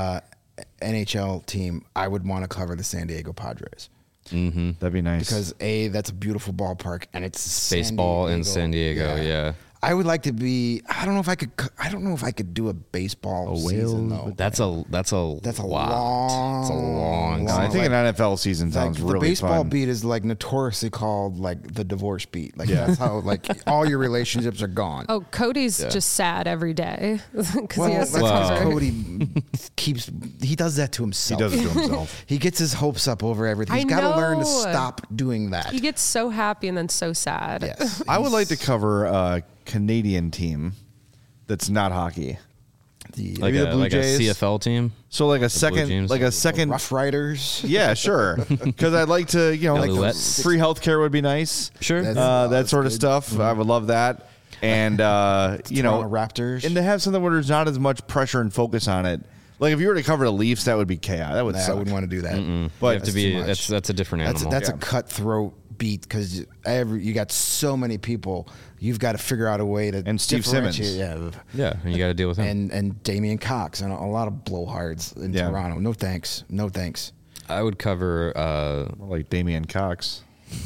NHL team. I would want to cover the San Diego Padres That'd be nice. because that's a beautiful ballpark and it's Baseball in San Diego, yeah. I would like to be. I don't know if I could do a baseball season though. That's a That's a lot. It's a long. long- I think like- an NFL season Like, sounds the really baseball fun. beat is like notoriously called like the divorce beat. Like that's how like all your relationships are gone. Oh, Cody's just sad every day because Well, he has that's to because cover. Cody he does that to He himself. does it to himself. He gets his hopes up over everything. I He's got to learn to know. stop doing that. He gets so happy and then so sad. Yes. I would like to cover a Canadian team that's not hockey. The Like Maybe the a, Blue like Jays? a CFL team. So like a Blue second, Jays? like a second. Rough Riders. Yeah, sure. Because I'd like to, like Alouettes. free healthcare would be nice. Sure. That's- That sort of good. stuff. I would love that. And Toronto Raptors. and to have something where there's not as much pressure and focus on it. Like if you were to cover the Leafs, that would be chaos. That would Nah, I suck. wouldn't want to do that. But you have to that's be. too much. That's a different animal. That's Yeah. a cutthroat beat because you got so many people. You've got to figure out a way to And Steve Simmons. differentiate- Yeah. yeah, and you got to deal with him. And Damian Cox and a lot of blowhards in Yeah. Toronto. No thanks. No thanks. I would cover. like Damian Cox.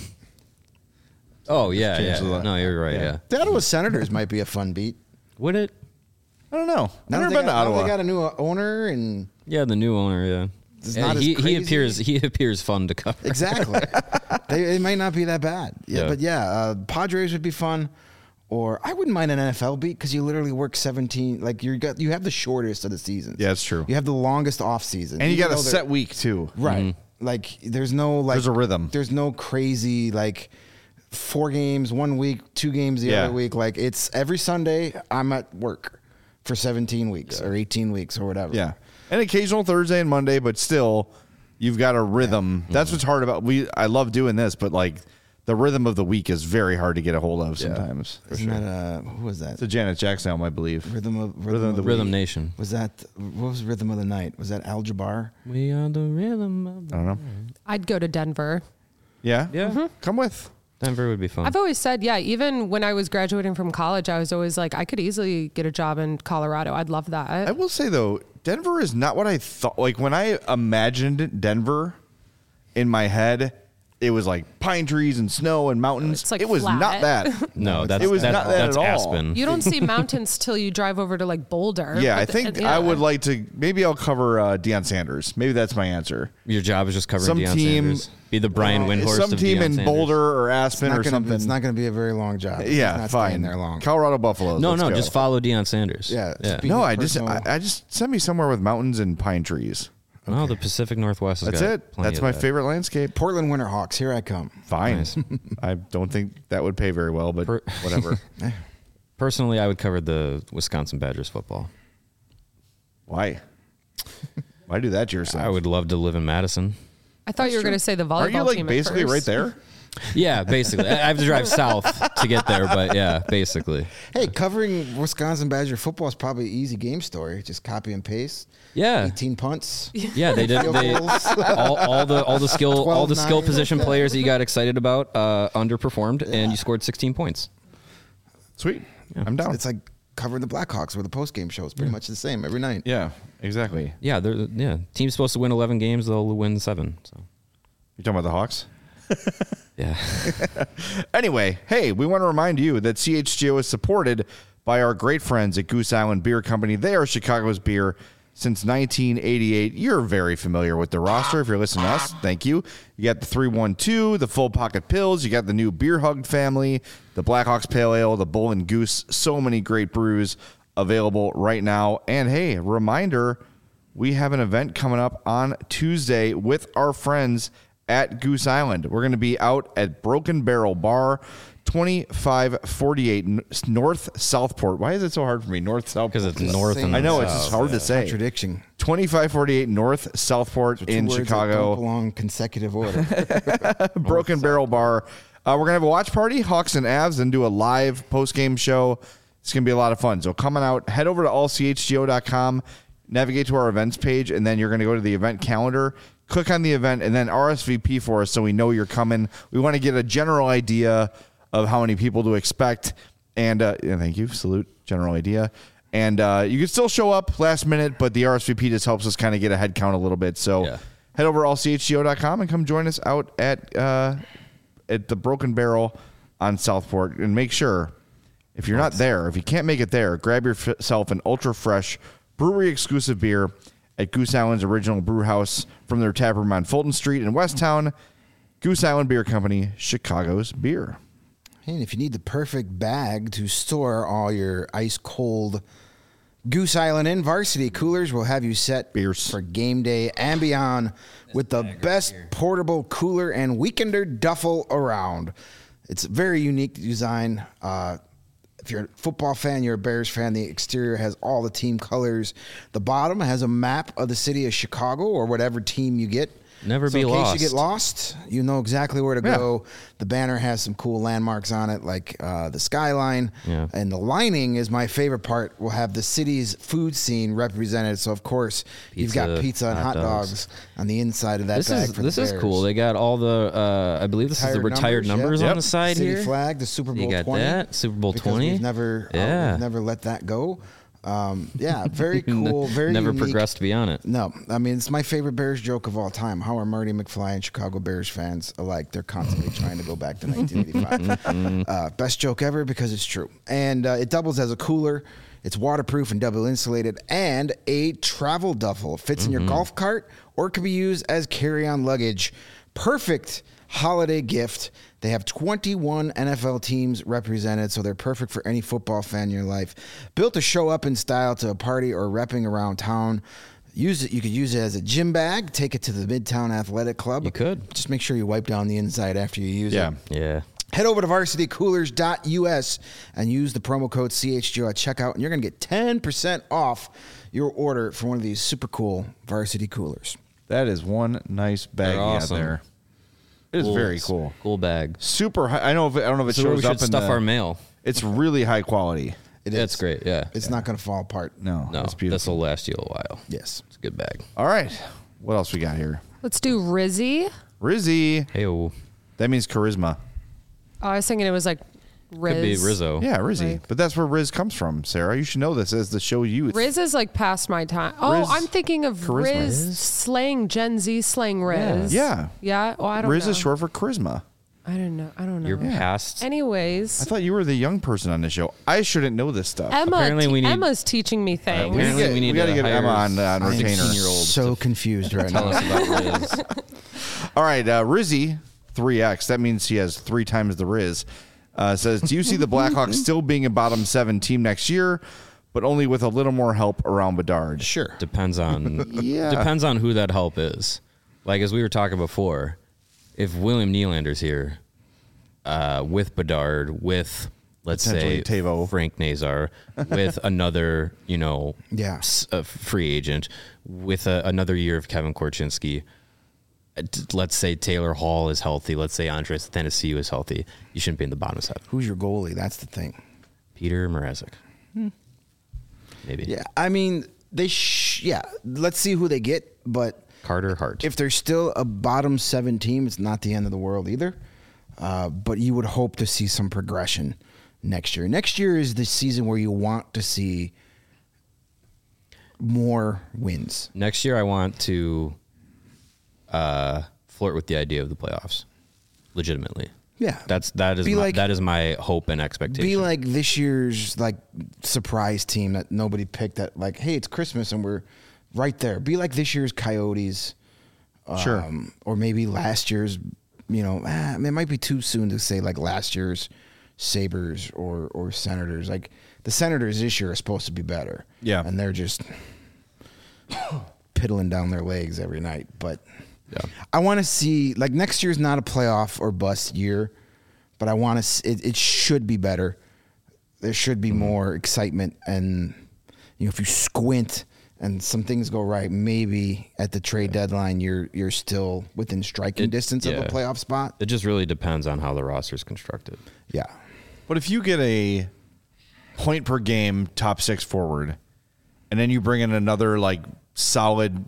Oh yeah, change yeah. the- No, you're right. Yeah. The Ottawa Senators might be a fun beat. Would it? I don't know. I've Now never they been to got- now Ottawa. They got a new owner and Yeah, the new owner. Yeah. It's Yeah, not as he crazy. appears fun to cover. exactly. They might not be that bad. Yeah, Yeah. but yeah, Padres would be fun. Or I wouldn't mind an NFL beat because you literally work 17. Like you have the shortest of the seasons. Yeah, it's true. You have the longest off season, And you Even got a though they're- set week too. right. Like there's no like There's a rhythm. There's no crazy like 4 games 1 week, 2 games the Yeah. other week. Like it's every Sunday I'm at work for 17 weeks or 18 weeks or whatever. Yeah. An occasional Thursday and Monday, but still you've got a rhythm. That's what's hard about I love doing this, but like the rhythm of the week is very hard to get a hold of sometimes. Isn't that who was that? It's a Janet Jackson album, I believe. Rhythm of the Rhythm Week. Nation. Was that what was Rhythm of the Night? Was that Al Jabbar? We are the rhythm of I don't know. I'd go to Denver. Yeah? Yeah. Come with. Denver would be fun. I've always said, yeah, even when I was graduating from college, I was always like, I could easily get a job in Colorado. I'd love that. I will say, though, Denver is not what I thought. Like, when I imagined Denver in my head, it was like pine trees and snow and mountains. It's like it was flat. not that. No, it was not that that's at all. Aspen. You don't see mountains till you drive over to like Boulder. Yeah, I But think yeah. I would like to. Maybe I'll cover Deion Sanders. Maybe that's my answer. Your job is just covering Some Deion team- Sanders. Be the Brian Windhorst Some of team Deion in Sanders. Boulder or Aspen or something. It's not going to be a very long job. It's Yeah, not fine. staying there long. Colorado Buffaloes. No, let's no, go. just follow Deion Sanders. Yeah, yeah. speak- No, personal- I just send me somewhere with mountains and pine trees. No, the Pacific Northwest has That's got it. plenty That's of my that. favorite landscape. Portland Winterhawks. Here I come. Fine. Nice. I don't think that would pay very well, but whatever. Personally, I would cover the Wisconsin Badgers football. Why? Why do that to yourself? I would love to live in Madison. I thought you were going to say the volleyball Aren't you like team at basically first. right there? Yeah, basically. I have to drive south to get there, but yeah, basically. Hey, covering Wisconsin Badger football is probably an easy game story. Just copy and paste. Yeah. 18 punts. Yeah, they did. Field They, goals. all the skill 12-9. position players that you got excited about underperformed, and you scored 16 points. Sweet. I'm down. It's like covering the Blackhawks where the post game show is pretty much the same every night. Yeah, exactly. Yeah, team's supposed to win 11 games, they'll win 7. So You talking about the Hawks? yeah, Anyway, hey, we want to remind you that CHGO is supported by our great friends at Goose Island Beer Company. They are Chicago's beer since 1988. You're very familiar with the roster if you're listening to us. Thank you. You got the 312, the Full Pocket Pills. You got the new Beer Hug family, the Blackhawks Pale Ale, the Bull and Goose. So many great brews available right now. And hey, reminder, we have an event coming up on Tuesday with our friends at Goose Island. We're going to be out at Broken Barrel Bar, 2548 North Southport. Why is it so hard for me? North Southport. because it's north and I know, south. it's just hard to say. Contradiction. 2548 North Southport in Two words that Chicago. don't belong consecutive order. Broken Barrel Bar. We're going to have a watch party, Hawks and Avs, and do a live post-game show. It's going to be a lot of fun. So coming out, head over to allchgo.com, navigate to our events page, and then you're going to go to the event calendar, click on the event, and then RSVP for us so we know you're coming. We want to get a general idea of how many people to expect. And thank you. Salute. General idea. And you can still show up last minute, but the RSVP just helps us kind of get a head count a little bit. So head over to allchgo.com and come join us out at the Broken Barrel on Southport. And make sure, if you're not there, if you can't make it there, grab yourself an ultra fresh brewery exclusive beer at Goose Island's original brew house from their tap room on Fulton Street in Westtown. Goose Island Beer Company, Chicago's beer. And if you need the perfect bag to store all your ice cold Goose Island in, Varsity Coolers will have you set Beers. for game day and beyond with the best portable cooler and weekender duffel around. It's a very unique design. If you're a football fan, you're a Bears fan, the exterior has all the team colors. The bottom has a map of the city of Chicago or whatever team you get. Never So be in case lost. you get lost, you know exactly where to go. The banner has some cool landmarks on it, like the skyline. Yeah. And the lining is my favorite part. Will have the city's food scene represented. So of course you've got Pizza, pizza and hot hot dogs. dogs on the inside of that This bag is for this the is Bears. cool. They got all the I believe this is the retired numbers yep. on the side City here. flag, the Super Bowl You got 20. that Super Bowl because 20. We've never let that go. Yeah, very cool. Very never unique. progressed beyond it. No, I mean, it's my favorite Bears joke of all time. How are Marty McFly and Chicago Bears fans alike? They're constantly trying to go back to 1985. Best joke ever because it's true. And it doubles as a cooler. It's waterproof and double insulated and a travel duffel. It fits in your golf cart or it can be used as carry-on luggage. Perfect holiday gift. They have 21 NFL teams represented, so they're perfect for any football fan in your life. Built to show up in style to a party or repping around town. Use it. You could use it as a gym bag. Take it to the Midtown Athletic Club. You could. Just make sure you wipe down the inside after you use it. Yeah. Head over to varsitycoolers.us and use the promo code CHGO at checkout, and you're going to get 10% off your order for one of these super cool Varsity Coolers. That is one nice baggie They're awesome. out there. It is very cool. Cool bag. Super high. I don't know if it So we shows should up in stuff the, our mail. It's really high quality. It's great. Yeah. It's not going to fall apart. No, No, it's beautiful. this will last you a while. Yes. It's a good bag. All right. What else we got here? Let's do Rizzy. Rizzy. Hey, That means charisma. Oh, I was thinking it was like Riz. could be Rizzo. Yeah, Rizzy. Like- But that's where Riz comes from, Sarah. You should know this as the show youth. Riz is like past my time. Oh, Riz- I'm thinking of charisma. Riz slang Gen Z slang Riz. Yeah. Yeah. Oh, I don't Riz know. is short for charisma. I don't know. You're past. I Anyways, thought you were the young person on the show. I shouldn't know this stuff. Apparently we need- Emma's teaching me things. apparently we need gotta to get hire Emma on I am retainer. 16-year-old so confused right Tell now. us about Riz. All right, Rizzy, 3X. That means he has 3 times the Riz. Says, do you see the Blackhawks still being a bottom 7 team next year, but only with a little more help around Bedard? Sure. Depends on Yeah. depends on who that help is. Like as we were talking before, if William Nylander's here, with Bedard, with let's say Potentially Tavo. Frank Nazar, with another Yeah. a free agent, with another year of Kevin Korchinski. Let's say Taylor Hall is healthy. Let's say Andres Athanasiou is healthy. You shouldn't be in the bottom 7. Who's your goalie? That's the thing. Peter Mrazek. Maybe. Yeah. I mean, let's see who they get, but Carter Hart. if they're still a bottom 7 team, it's not the end of the world either. But you would hope to see some progression next year. Next year is the season where you want to see more wins. Next year, I want to flirt with the idea of the playoffs, legitimately. Yeah. That is my hope and expectation. Be like this year's like surprise team that nobody picked. That like, hey, it's Christmas and we're right there. Be like this year's Coyotes, Sure. or maybe last year's. It might be too soon to say like last year's Sabres or Senators. Like the Senators this year are supposed to be better. Yeah. And they're just piddling down their legs every night. But Yeah. I want to see like next year's not a playoff or bust year, but I want to. It should be better. There should be more excitement, and if you squint and some things go right, maybe at the trade deadline you're still within striking distance of a playoff spot. It just really depends on how the roster's constructed. Yeah. But if you get a point per game top 6 forward, and then you bring in another like solid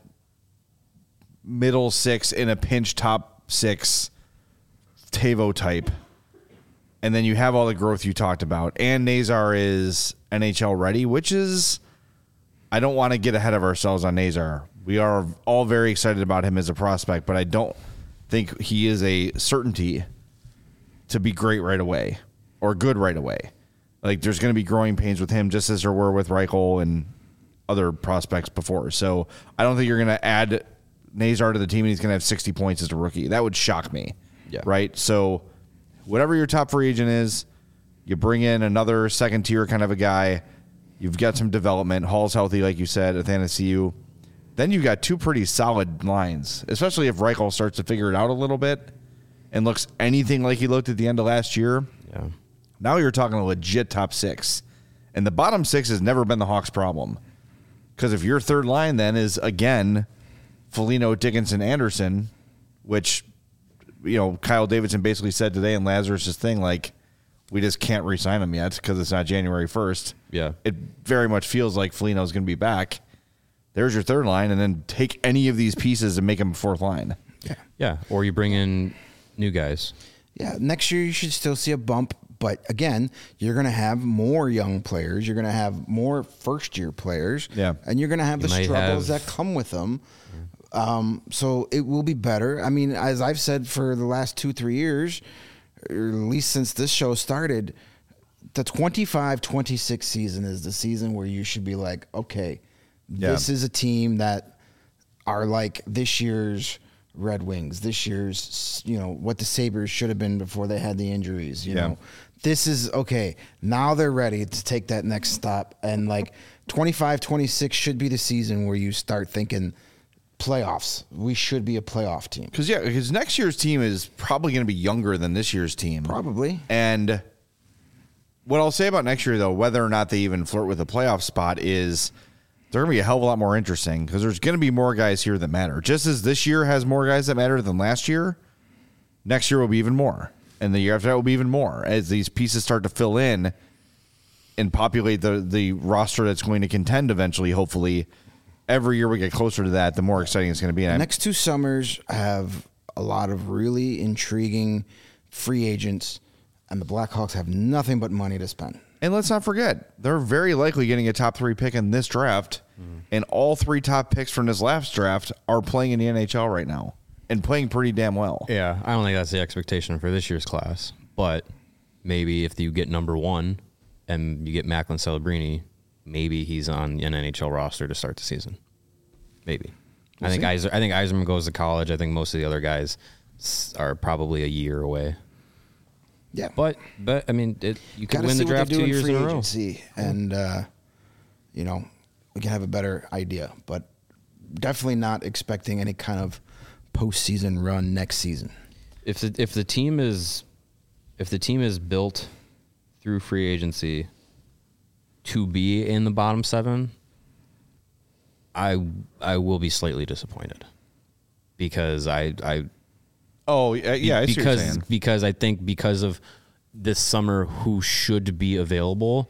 middle 6 in a pinch top 6 Tavo type, and then you have all the growth you talked about, and Nazar is NHL ready, which is, I don't want to get ahead of ourselves on Nazar. We are all very excited about him as a prospect, but I don't think he is a certainty to be great right away or good right away. Like there's going to be growing pains with him, just as there were with Reichel and other prospects before. So I don't think you're going to add Nazar to the team and he's going to have 60 points as a rookie. That would shock me. Yeah. Right. So whatever your top free agent is, you bring in another second tier kind of a guy. You've got some development. Hall's healthy, like you said, Athanasiou. Then you've got 2 pretty solid lines, especially if Reichel starts to figure it out a little bit and looks anything like he looked at the end of last year. Yeah. Now you're talking a legit top 6. And the bottom 6 has never been the Hawks' problem. Because if your third line then is, again, Foligno, Dickinson, Anderson, which, Kyle Davidson basically said today in Lazarus' thing, like, we just can't re-sign him yet because it's not January 1st. Yeah. It very much feels like Foligno's going to be back. There's your third line, and then take any of these pieces and make them a fourth line. Yeah. Yeah. Or you bring in new guys. Yeah. Next year you should still see a bump, but again, you're going to have more young players. You're going to have more first-year players. Yeah. And you're going to have the might struggles have- that come with them. So it will be better. I mean, as I've said for the last 2-3 years, or at least since this show started, the 25-26 season is the season where you should be like, okay, this is a team that are like this year's Red Wings, this year's, what the Sabres should have been before they had the injuries, you know. This is, okay, now they're ready to take that next stop. And like 25-26 should be the season where you start thinking playoffs. We should be a playoff team. Because next year's team is probably going to be younger than this year's team. Probably. And what I'll say about next year, though, whether or not they even flirt with a playoff spot, is they're going to be a hell of a lot more interesting because there's going to be more guys here that matter. Just as this year has more guys that matter than last year, Next year will be even more. And the year after that will be even more as these pieces start to fill in and populate the roster that's going to contend eventually, hopefully. Every year we get closer to that, the more exciting it's going to be. The next 2 summers have a lot of really intriguing free agents, and the Blackhawks have nothing but money to spend. And let's not forget, they're very likely getting a top 3 pick in this draft, and all 3 top picks from this last draft are playing in the NHL right now and playing pretty damn well. Yeah, I don't think that's the expectation for this year's class. But maybe if you get number 1 and you get Macklin Celebrini, maybe he's on an NHL roster to start the season. Maybe. I think Yzerman goes to college. I think most of the other guys are probably a year away. Yeah, but I mean, you could Gotta win the see what draft they do 2 years free in a row. agency, and we can have a better idea. But definitely not expecting any kind of postseason run next season. If the team is built through free agency to be in the bottom 7, I will be slightly disappointed because I see what you're saying. Because I think because of this summer who should be available,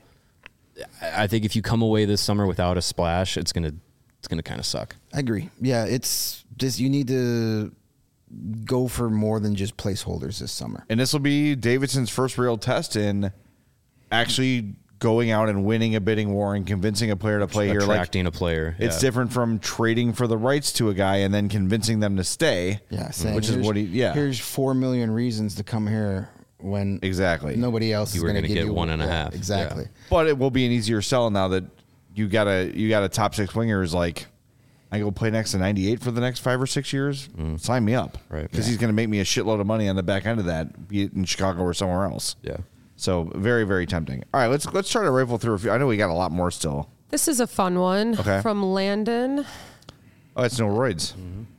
I think if you come away this summer without a splash, it's gonna kind of suck. I agree. Yeah, it's just you need to go for more than just placeholders this summer. And this will be Davidson's first real test in actually going out and winning a bidding war and convincing a player to play here. Attracting a player. It's different from trading for the rights to a guy and then convincing them to stay. Yeah, saying, which is what here's 4 million reasons to come here when nobody else is going to get you 1.5. Exactly. Yeah. But it will be an easier sell now that you got a top 6 wingers like I go play next to 98 for the next 5 or 6 years. Sign me up, Right? Because he's going to make me a shitload of money on the back end of that, be it in Chicago or somewhere else. Yeah. So very, very tempting. All right, let's try to rifle through a few. I know we got a lot more still. This is a fun one from Landon. Oh, it's no roids.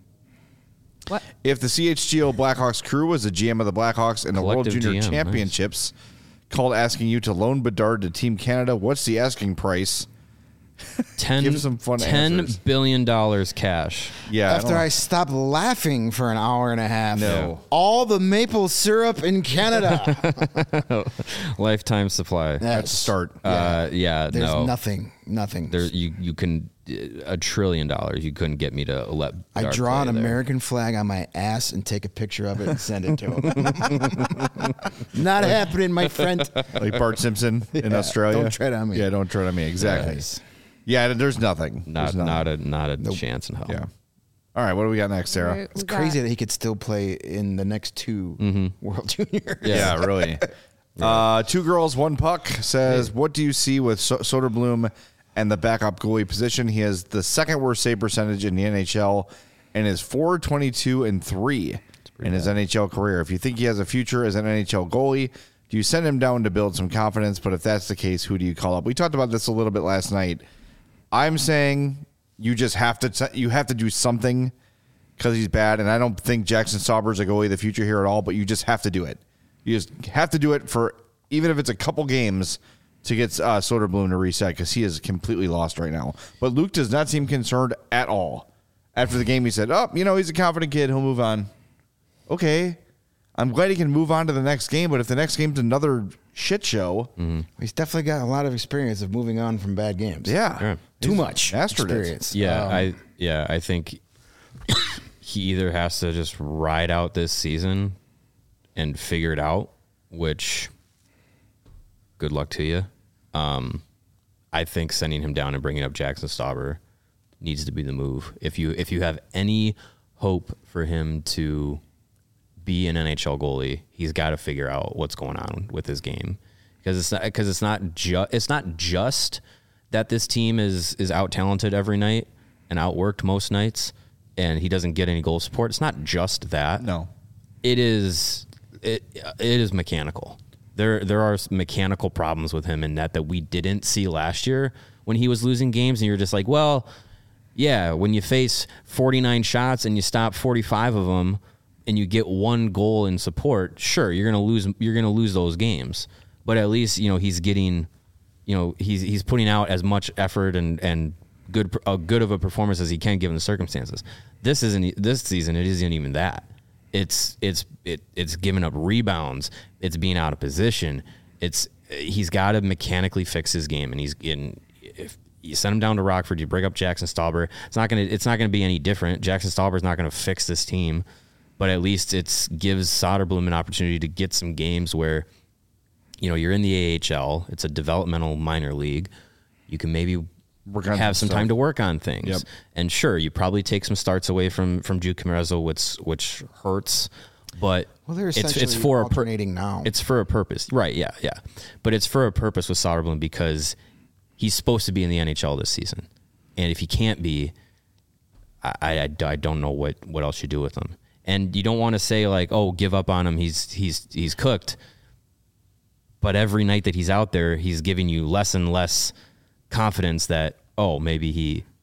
What? If the CHGO Blackhawks crew was the GM of the Blackhawks in the World Collective Junior GM, Championships, called asking you to loan Bedard to Team Canada, what's the asking price? Give some fun answers. $10 billion cash. Yeah. After I stopped laughing for an hour and a half. No. All the maple syrup in Canada. Lifetime supply. That's a start. Yeah, There's no. nothing. There, you can $1 trillion. You couldn't get me to let. I Bedard draw an play there. American flag on my ass and take a picture of it and send it to him. Not happening, my friend. Like Bart Simpson in Australia. Don't tread on me. Yeah, don't tread on me. Exactly. Yes. Yeah, there's nothing. Not a chance in hell. Yeah. All right, what do we got next, Sarah? Right, It's we crazy got- that he could still play in the next 2 World Juniors. Yeah, really. 2 girls, 1 puck says, what do you see with Soderblom and the backup goalie position? He has the 2nd worst save percentage in the NHL and is .422-3 in his NHL career. If you think he has a future as an NHL goalie, do you send him down to build some confidence? But if that's the case, who do you call up? We talked about this a little bit last night. I'm saying you just have to do something because he's bad, and I don't think Jackson Sauber is a goalie of the future here at all. But you just have to do it. You just have to do it for even if it's a couple games to get Soderblom to reset because he is completely lost right now. But Luke does not seem concerned at all. After the game, he said, "Oh, he's a confident kid. He'll move on." Okay, I'm glad he can move on to the next game. But if the next game's another shit show, He's definitely got a lot of experience of moving on from bad games. yeah. Too much mastered it. experience. Yeah, I think he either has to just ride out this season and figure it out, which good luck to you. I think sending him down and bringing up Jackson Stauber needs to be the move. If you have any hope for him to be an NHL goalie, he's got to figure out what's going on with his game because it's not just that this team is out talented every night and outworked most nights, and he doesn't get any goal support. It's not just that. No, it is mechanical. There are mechanical problems with him in net that we didn't see last year when he was losing games, and you're just like, well, yeah, when you face 49 shots and you stop 45 of them and you get 1 goal in support, sure, you're gonna lose those games, but at least he's getting. He's putting out as much effort and good of a performance as he can given the circumstances. This season, it isn't even that. It's giving up rebounds. It's being out of position. He's got to mechanically fix his game, and if you send him down to Rockford, you bring up Jackson Stauber. It's not gonna be any different. Jackson Stauber's not gonna fix this team, but at least it gives Soderblom an opportunity to get some games where, you're in the AHL. It's a developmental minor league. You can maybe have some time to work on things. Yep. And sure, you probably take some starts away from Jude Camarazzo, which hurts. But Well, they're it's essentially for alternating now. It's for a purpose, right? Yeah. But it's for a purpose with Soderblom because he's supposed to be in the NHL this season, and if he can't be, I don't know what else you do with him. And you don't want to say like, oh, give up on him. He's cooked. But every night that he's out there, he's giving you less and less confidence that, oh, maybe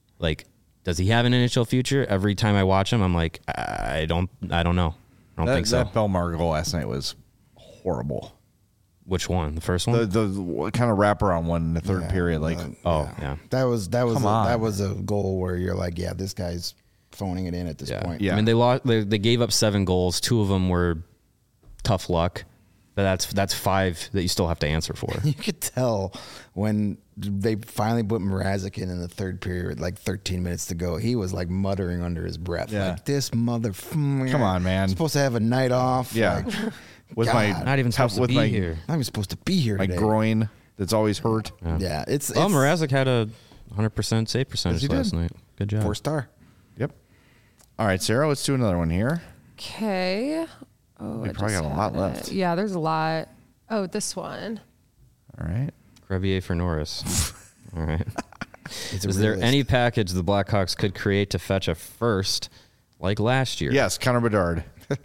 does he have an NHL future? Every time I watch him, I'm like, I don't know. I don't think so. That Belmar goal last night was horrible. Which one? The first one? The kind of wraparound one in the third period. Yeah. That was Come on. that was a goal where you're like, yeah, this guy's phoning it in at this point. Yeah. I mean, they gave up 7 goals. 2 of them were tough luck. But that's 5 that you still have to answer for. You could tell when they finally put Mrazek in the third period, like 13 minutes to go. He was like muttering under his breath, Yeah. like this mother. Come on, man. Supposed to have a night off. Yeah. Like, With God. my Not even supposed to be here. not even supposed to be here my today. groin that's always hurt. Yeah, it's Mrazek had a 100% save percentage Yes, he last did. night. Good job. 4-star. Yep. All right, Sarah, let's do another one here. Okay. Oh, We I probably just got a lot had left. it. Yeah, there's a lot. Oh, this one. All right. Crevier for Norris. All right. It's a Is there realist. any package the Blackhawks could create to fetch a first like last year? Yes, Connor Bedard.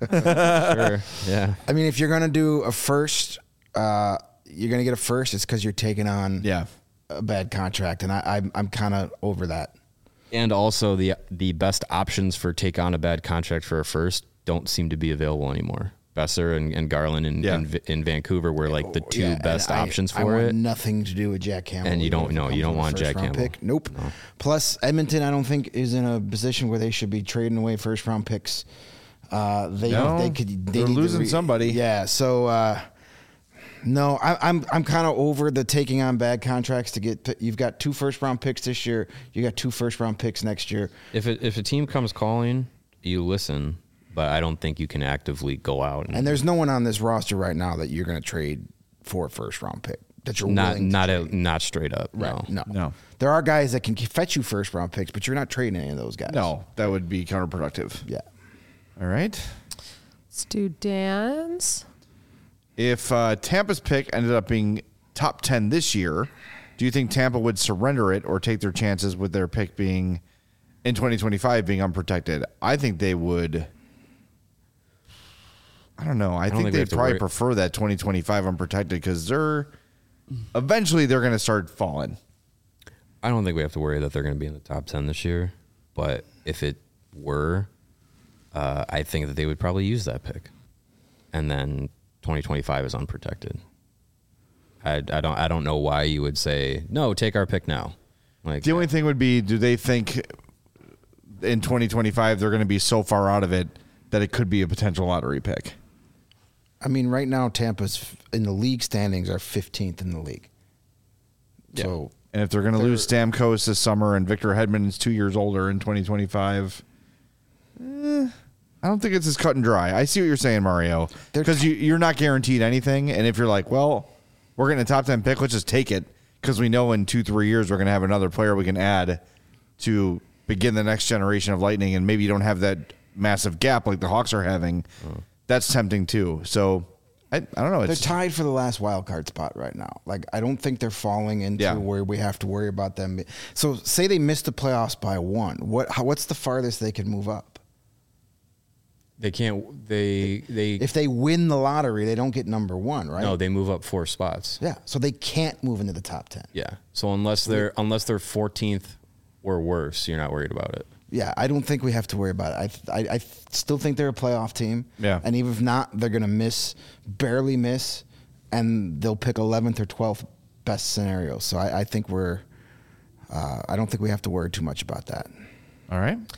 Sure. Yeah. I mean, if you're gonna do a first, you're gonna get a first. It's because you're taking on Yeah. a bad contract, and I'm kind of over that. And also the best options for take on a bad contract for a first don't seem to be available anymore. Besser and Garland in Vancouver were like the 2 Yeah, best and options I for want it. Nothing to do with Jack Campbell. And you don't- Even if it no, comes you don't with a want Jack first-round Campbell. pick. Nope. Plus, Edmonton, I don't think is in a position where they should be trading away first round picks. No, They could. they're need to losing somebody. Yeah. So no, I'm kind of over the taking on bad contracts to get. You've got 2 first round picks this year. You got 2 first round picks next year. If a team comes calling, you listen, but I don't think you can actively go out And there's no one on this roster right now that you're going to trade for a first round pick. That you're not willing to not straight up. Right. No. No. There are guys that can fetch you first round picks, but you're not trading any of those guys. No, that would be counterproductive. Yeah. All right. Let's do Dan's. If Tampa's pick ended up being top 10 this year, do you think Tampa would surrender it or take their chances with their pick being in 2025 being unprotected? I think they would. I don't know. I think think we they'd have to probably worry- prefer that 2025 unprotected because eventually they're going to start falling. I don't think we have to worry that they're going to be in the top 10 this year. But if it were, I think that they would probably use that pick. And then 2025 is unprotected. I don't know why you would say, no, take our pick now. Like The only thing would be, do they think in 2025 they're going to be so far out of it that it could be a potential lottery pick? I mean, right now Tampa's in the league standings are 15th in the league. Yeah. So And if they're going to lose Stamkos this summer and Victor Hedman is 2 years older in 2025, I don't think it's as cut and dry. I see what you're saying, Mario. Because you're not guaranteed anything. And if you're like, well, we're getting a top 10 pick, let's just take it. Because we know in 2-3 years we're going to have another player we can add to begin the next generation of Lightning. And maybe you don't have that massive gap like the Hawks are having. That's tempting too. So I don't know. they're It's tied for the last wild card spot right now. Like, I don't think they're falling into Yeah. where we have to worry about them. So say they missed the playoffs by 1. What's the farthest they can move up? they can't. They If they win the lottery, they don't get number 1, right? no, they move up 4 spots. Yeah. So they can't move into the top 10. Yeah. So unless they're 14th or worse, you're not worried about it. Yeah, I don't think we have to worry about it. I still think they're a playoff team. Yeah. And even if not, they're going to barely miss, and they'll pick 11th or 12th best scenario. So I think I don't think we have to worry too much about that. all right.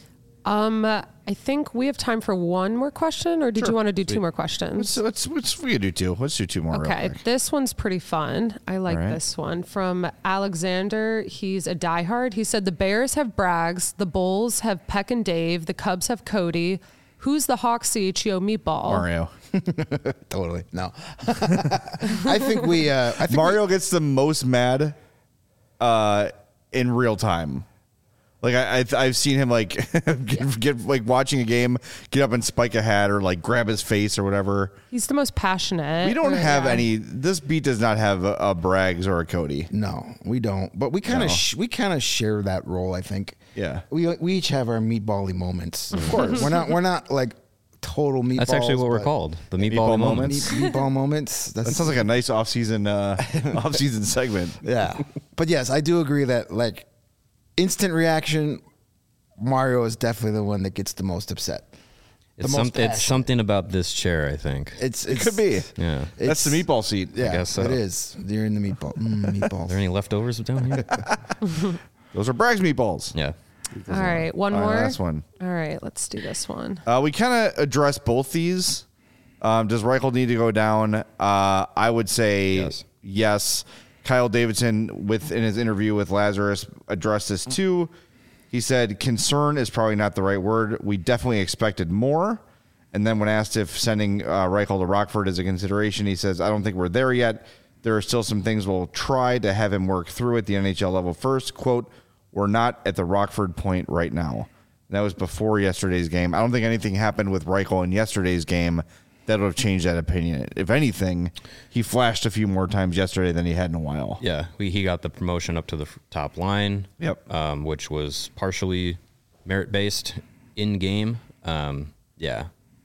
I think we have time for one more question, or did you want to do two more questions? Let's we could do two. Let's do two more. Okay, real quick. this one's pretty fun. I like All right. this one from Alexander. He's a diehard. He said the Bears have Braggs, the Bulls have Peck and Dave, the Cubs have Cody. Who's the Hawks CHGO meatball? Mario. Totally. No. I think Mario gets the most mad in real time. Like I've seen him like get like watching a game, get up and spike a hat or like grab his face or whatever. He's the most passionate. We don't have Yeah. any. This beat does not have a Braggs or a Cody. No, we don't. But we kind of share that role. I think. Yeah. We each have our meatbally moments. Of course, we're not like total meatballs. That's actually what we're but called. The Meatball meatball moments. moments. Meatball moments. That sounds like a nice off-season segment. Yeah. But yes, I do agree that like instant reaction, Mario is definitely the one that gets the most upset. It's, most it's passionate. something about this chair, I think. It Could be. Yeah. That's the meatball seat. Yeah, guess so. it is. You're in the meatball. Are Meatballs. there any leftovers down here? Those are Braggs meatballs. Yeah. All right, one All right, more. last one. All right, let's do this one. We kind of addressed both these. Does Reichel need to go down? I would say yes. Kyle Davidson, in his interview with Lazarus, addressed this too. He said, concern is probably not the right word. We definitely expected more. And then when asked if sending Reichel to Rockford is a consideration, he says, I don't think we're there yet. There are still some things we'll try to have him work through at the NHL level first. Quote, we're not at the Rockford point right now. That was before yesterday's game. I don't think anything happened with Reichel in yesterday's game that would have changed that opinion. If anything, he flashed a few more times yesterday than he had in a while. Yeah. He got the promotion up to the top line. Yep. Which was partially merit-based in-game. Yeah.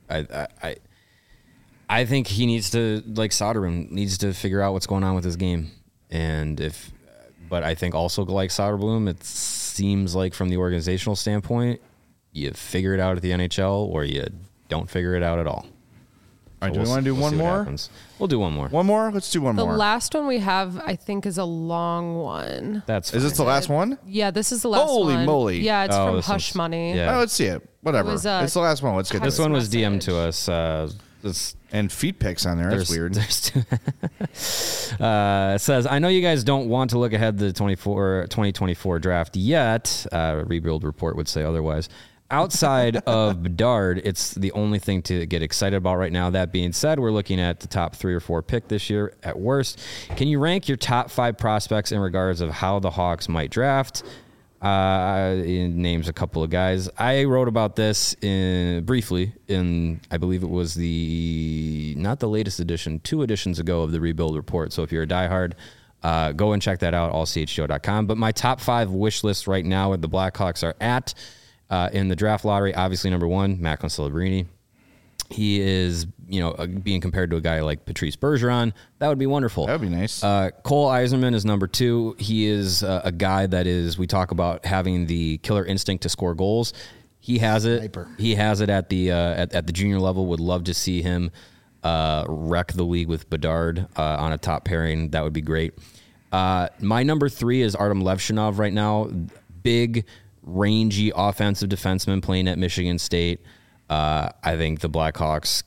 I think he needs to, like Soderblom, needs to figure out what's going on with his game. But I think also like Soderblom, it seems like from the organizational standpoint, you figure it out at the NHL or you don't figure it out at all. All right, do we want to do one more? We'll do one more. One more? Let's do one The more. last one we have, I think, is a long one. That's Is this the last one? Yeah, this is the last one. Holy moly. Yeah, it's Oh, from this Hush one's- Money. yeah. Oh, let's see it. Whatever. It was, it's the last one. Let's get This this one was message. DM'd to us. And feet pics on there. That's weird. It says, I know you guys don't want to look ahead to the 2024 draft yet. Rebuild report would say otherwise. Outside of Bedard, it's the only thing to get excited about right now. That being said, we're looking at the top 3 or 4 pick this year at worst. Can you rank your top 5 prospects in regards of how the Hawks might draft? It names a couple of guys. I wrote about this briefly in, I believe it was not the latest edition, 2 editions ago of the Rebuild Report. So if you're a diehard, go and check that out, allchgo.com. But my top 5 wish list right now where the Blackhawks are at in the draft lottery, obviously number 1, Macklin Celebrini. He is, being compared to a guy like Patrice Bergeron. That would be wonderful. That would be nice. Cole Eiserman is number 2. He is a guy that we talk about having the killer instinct to score goals. He has it. Sniper. He has it at the junior level. Would love to see him wreck the league with Bedard on a top pairing. That would be great. My number 3 is Artem Levshunov right now. Big, rangy offensive defenseman playing at Michigan State. I think the Blackhawks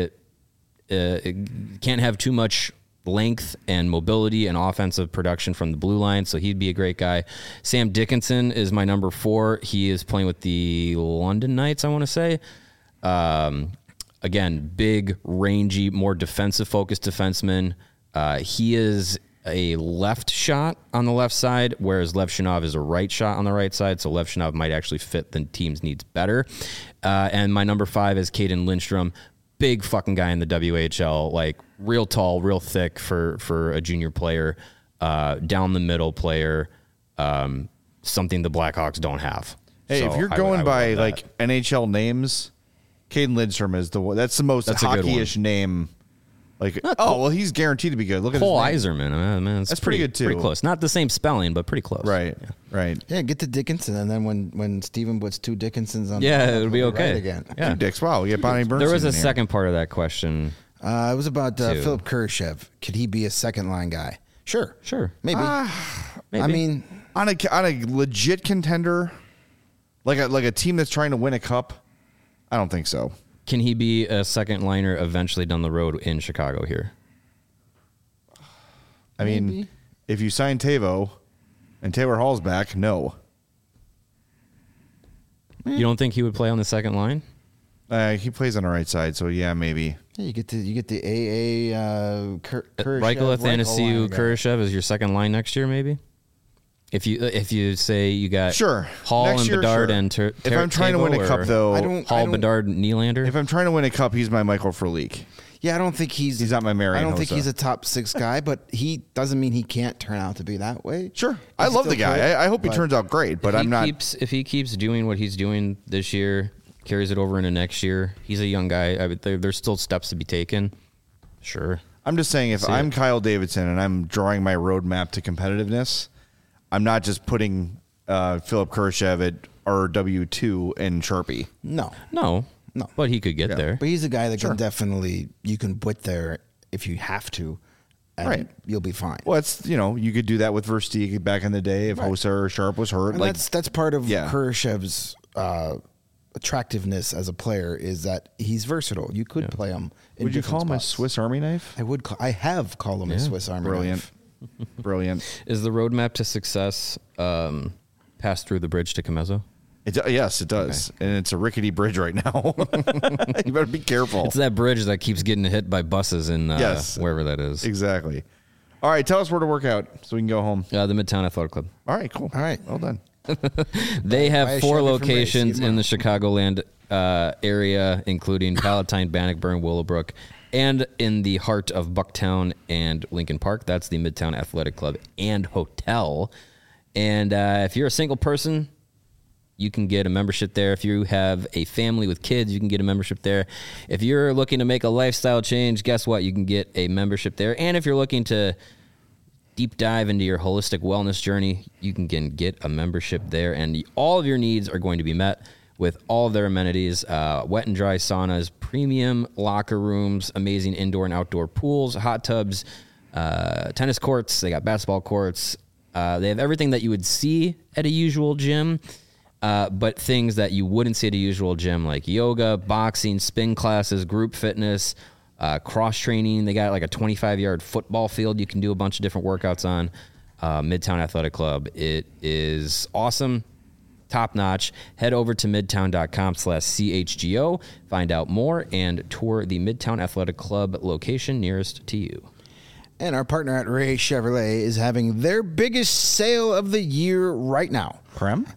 can't have too much length and mobility and offensive production from the blue line, so he'd be a great guy. Sam Dickinson is my number 4. He is playing with the London Knights, I want to say. Again, big, rangy, more defensive-focused defenseman. He is a left shot on the left side, whereas Levshunov is a right shot on the right side, so Levshunov might actually fit the team's needs better. And my number 5 is Caden Lindstrom. Big fucking guy in the WHL, like real tall, real thick for a junior player, down the middle player, something the Blackhawks don't have. Hey, So if you're I going would by love that. like NHL names, Caden Lindstrom is the one. That's the most That's a good hockey-ish name. Like, well, he's guaranteed to be good. Look at Cole his name. Eiserman, man, That's pretty good, too. Pretty close. Not the same spelling, but pretty close. Right, right. Yeah, get to Dickinson, and then when Steven puts 2 Dickinsons on, Yeah, the it would be we'll okay. right again. Yeah. Two dicks. Wow, we get Bonnie Bernstein. There was a in here. second part of that question. It was about Two. Philip Kurashev. Could he be a second line guy? Sure, Sure. maybe. Maybe. I mean, on a legit contender. Like a team that's trying to win a cup? I don't think so. Can he be a second liner eventually down the road in Chicago here? I mean, if you sign Tavo and Taylor Hall's back, no. You don't think he would play on the second line? He plays on the right side, so yeah, maybe. Yeah, you get the AA Kurashev, Reichel, Athanasiou, Reichel Kurashev is your second line next year, maybe. If you say you got Sure Hall next and year, Bedard sure. and If I'm trying to win a cup, though, Hall, Bedard, Nylander. If I'm trying to win a cup, he's my Michael Frolik. Yeah, I don't think he's not my Marian I don't think Hossa. he's a top 6 guy, but he doesn't mean he can't turn out to be that way. Sure, I love the guy. I hope he turns out great, but I'm not. If he keeps doing what he's doing this year, carries it over into next year, he's a young guy. There's still steps to be taken. Sure. I'm just saying, if I'm Kyle Davidson and I'm drawing my roadmap to competitiveness, I'm not just putting Philip Kurashev at RW2 and Sharpie. No. But he could get there. But he's a guy that can definitely, you can put there if you have to, and Right. you'll be fine. Well, it's, you could do that with Versteeg back in the day if Hossa or Sharp was hurt. And Like that's part of Yeah. Kurashev's attractiveness as a player is that he's versatile. You could play him. Would you call him a Swiss Army knife? I have called him a Swiss Army Brilliant. knife. Brilliant. Is the roadmap to success pass through the bridge to Comezo? Yes, it does. And it's a rickety bridge right now. You better be careful. It's that bridge that keeps getting hit by buses in wherever that is. Exactly. All right, tell us where to work out so we can go home. The Midtown Athletic Club. All right, cool. All right. Well done. They Buy have a 4 Chevy from Ray, locations see you in the Chicagoland area, including Palatine, Bannockburn, Willowbrook, and in the heart of Bucktown and Lincoln Park. That's the Midtown Athletic Club and Hotel. And if you're a single person, you can get a membership there. If you have a family with kids, you can get a membership there. If you're looking to make a lifestyle change, guess what? You can get a membership there. And if you're looking to deep dive into your holistic wellness journey, you can get a membership there. And all of your needs are going to be met with all of their amenities, wet and dry saunas, premium locker rooms, amazing indoor and outdoor pools, hot tubs, tennis courts. They got basketball courts. They have everything that you would see at a usual gym. But things that you wouldn't see at a usual gym, like yoga, boxing, spin classes, group fitness, cross training. They got like a 25-yard football field you can do a bunch of different workouts on. Midtown Athletic Club. It is awesome, top notch. Head over to midtown.com/CHGO, find out more, and tour the Midtown Athletic Club location nearest to you. And our partner at Ray Chevrolet is having their biggest sale of the year right now. Prem?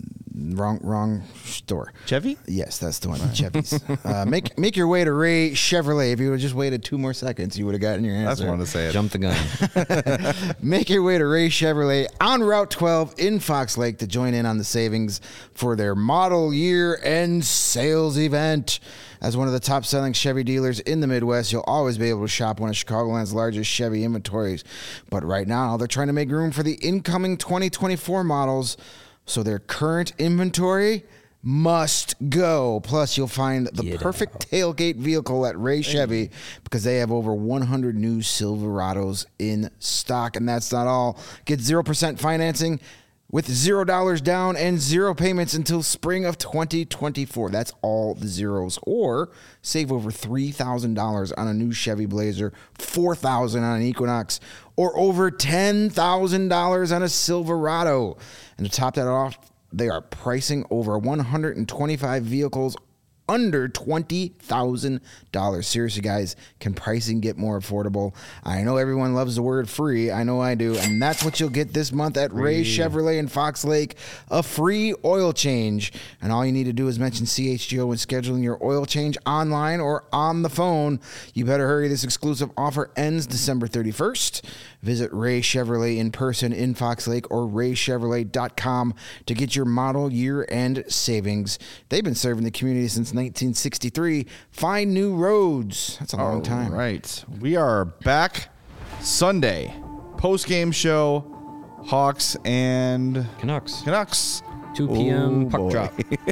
Wrong store. Chevy? Yes, that's the one. Chevy's. Make your way to Ray Chevrolet. If you would have just waited 2 more seconds, you would have gotten your answer. That's one to say it. Jump the gun. Make your way to Ray Chevrolet on Route 12 in Fox Lake to join in on the savings for their model year end sales event. As one of the top-selling Chevy dealers in the Midwest, you'll always be able to shop one of Chicagoland's largest Chevy inventories. But right now, they're trying to make room for the incoming 2024 models, so their current inventory must go. Plus, you'll find the perfect tailgate vehicle at Ray Chevy because they have over 100 new Silverados in stock. And that's not all. Get 0% financing with $0 down and 0 payments until spring of 2024. That's all the zeros. Or save over $3,000 on a new Chevy Blazer, $4,000 on an Equinox, or over $10,000 on a Silverado. And to top that off, they are pricing over 125 vehicles under $20,000. Seriously, guys, can pricing get more affordable? I know everyone loves the word free. I know I do. And that's what you'll get this month at Ray Chevrolet in Fox Lake, a free oil change. And all you need to do is mention CHGO when scheduling your oil change online or on the phone. You better hurry. This exclusive offer ends December 31st. Visit Ray Chevrolet in person in Fox Lake or raychevrolet.com to get your model year-end savings. They've been serving the community since 1963. Find new roads. That's a long time. Right. We are back Sunday. Post-game show, Hawks and Canucks. 2 Oh, p.m. puck boy. drop.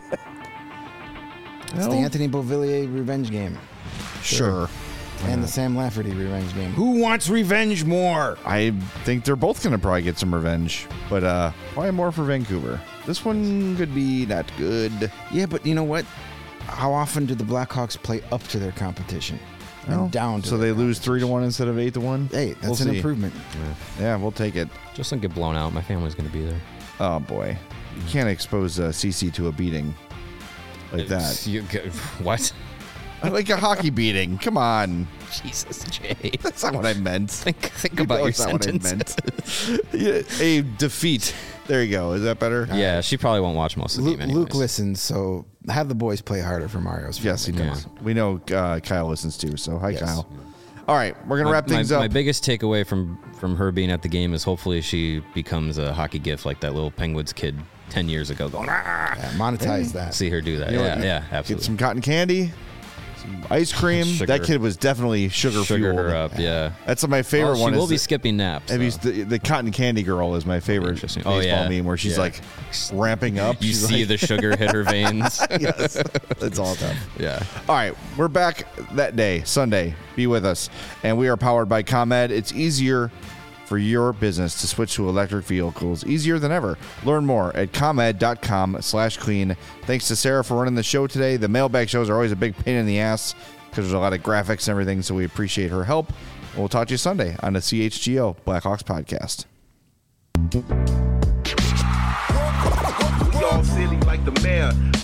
It's the Anthony Beauvillier revenge game. Sure. And the Sam Lafferty revenge game. Who wants revenge more? I think they're both going to probably get some revenge, but probably more for Vancouver. this one could be not good. Yeah, but you know what? How often do the Blackhawks play up to their competition and Well, down to so their they lose 3-1 instead of 8-1. Hey, that's We'll an see. improvement. Yeah, we'll take it. Just don't get blown out. My family's going to be there. Oh boy, you can't expose CC to a beating like that. What? Like a hockey beating. Come on, Jesus, Jay. that's not what I meant. Think You about know your it's not what I sentence. meant. Yeah, a defeat. There you go. Is that better? Yeah, she probably won't watch most of the game anyways. Luke listens, so have the boys play harder for Mario's family. Yes, he Come does. We know Kyle listens too. So hi, Yes. Kyle. All right, we're gonna wrap things up. My biggest takeaway from her being at the game is hopefully she becomes a hockey gif like that little Penguins kid 10 years ago going, "Ah!" Yeah, monetize that. See her do that. You know Yeah, what? yeah, Get absolutely. some cotton candy, some ice cream. Sugar. That kid was definitely sugar fueled. her up, yeah. That's my favorite Well, one. She will is be skipping naps. Have you, though. the cotton candy girl is my favorite Interesting. baseball Oh, yeah. meme where she's Yeah. like ramping up. You She's see like, the sugar hit her veins. yes, it's all tough. Yeah. All right, we're back that day, Sunday. Be with us. And we are powered by ComEd. It's easier for your business to switch to electric vehicles, easier than ever. Learn more at comed.com/clean. Thanks to Sarah for running the show today. The mailbag shows are always a big pain in the ass because there's a lot of graphics and everything, so we appreciate her help. We'll talk to you Sunday on the CHGO Blackhawks podcast. We all silly like the mayor.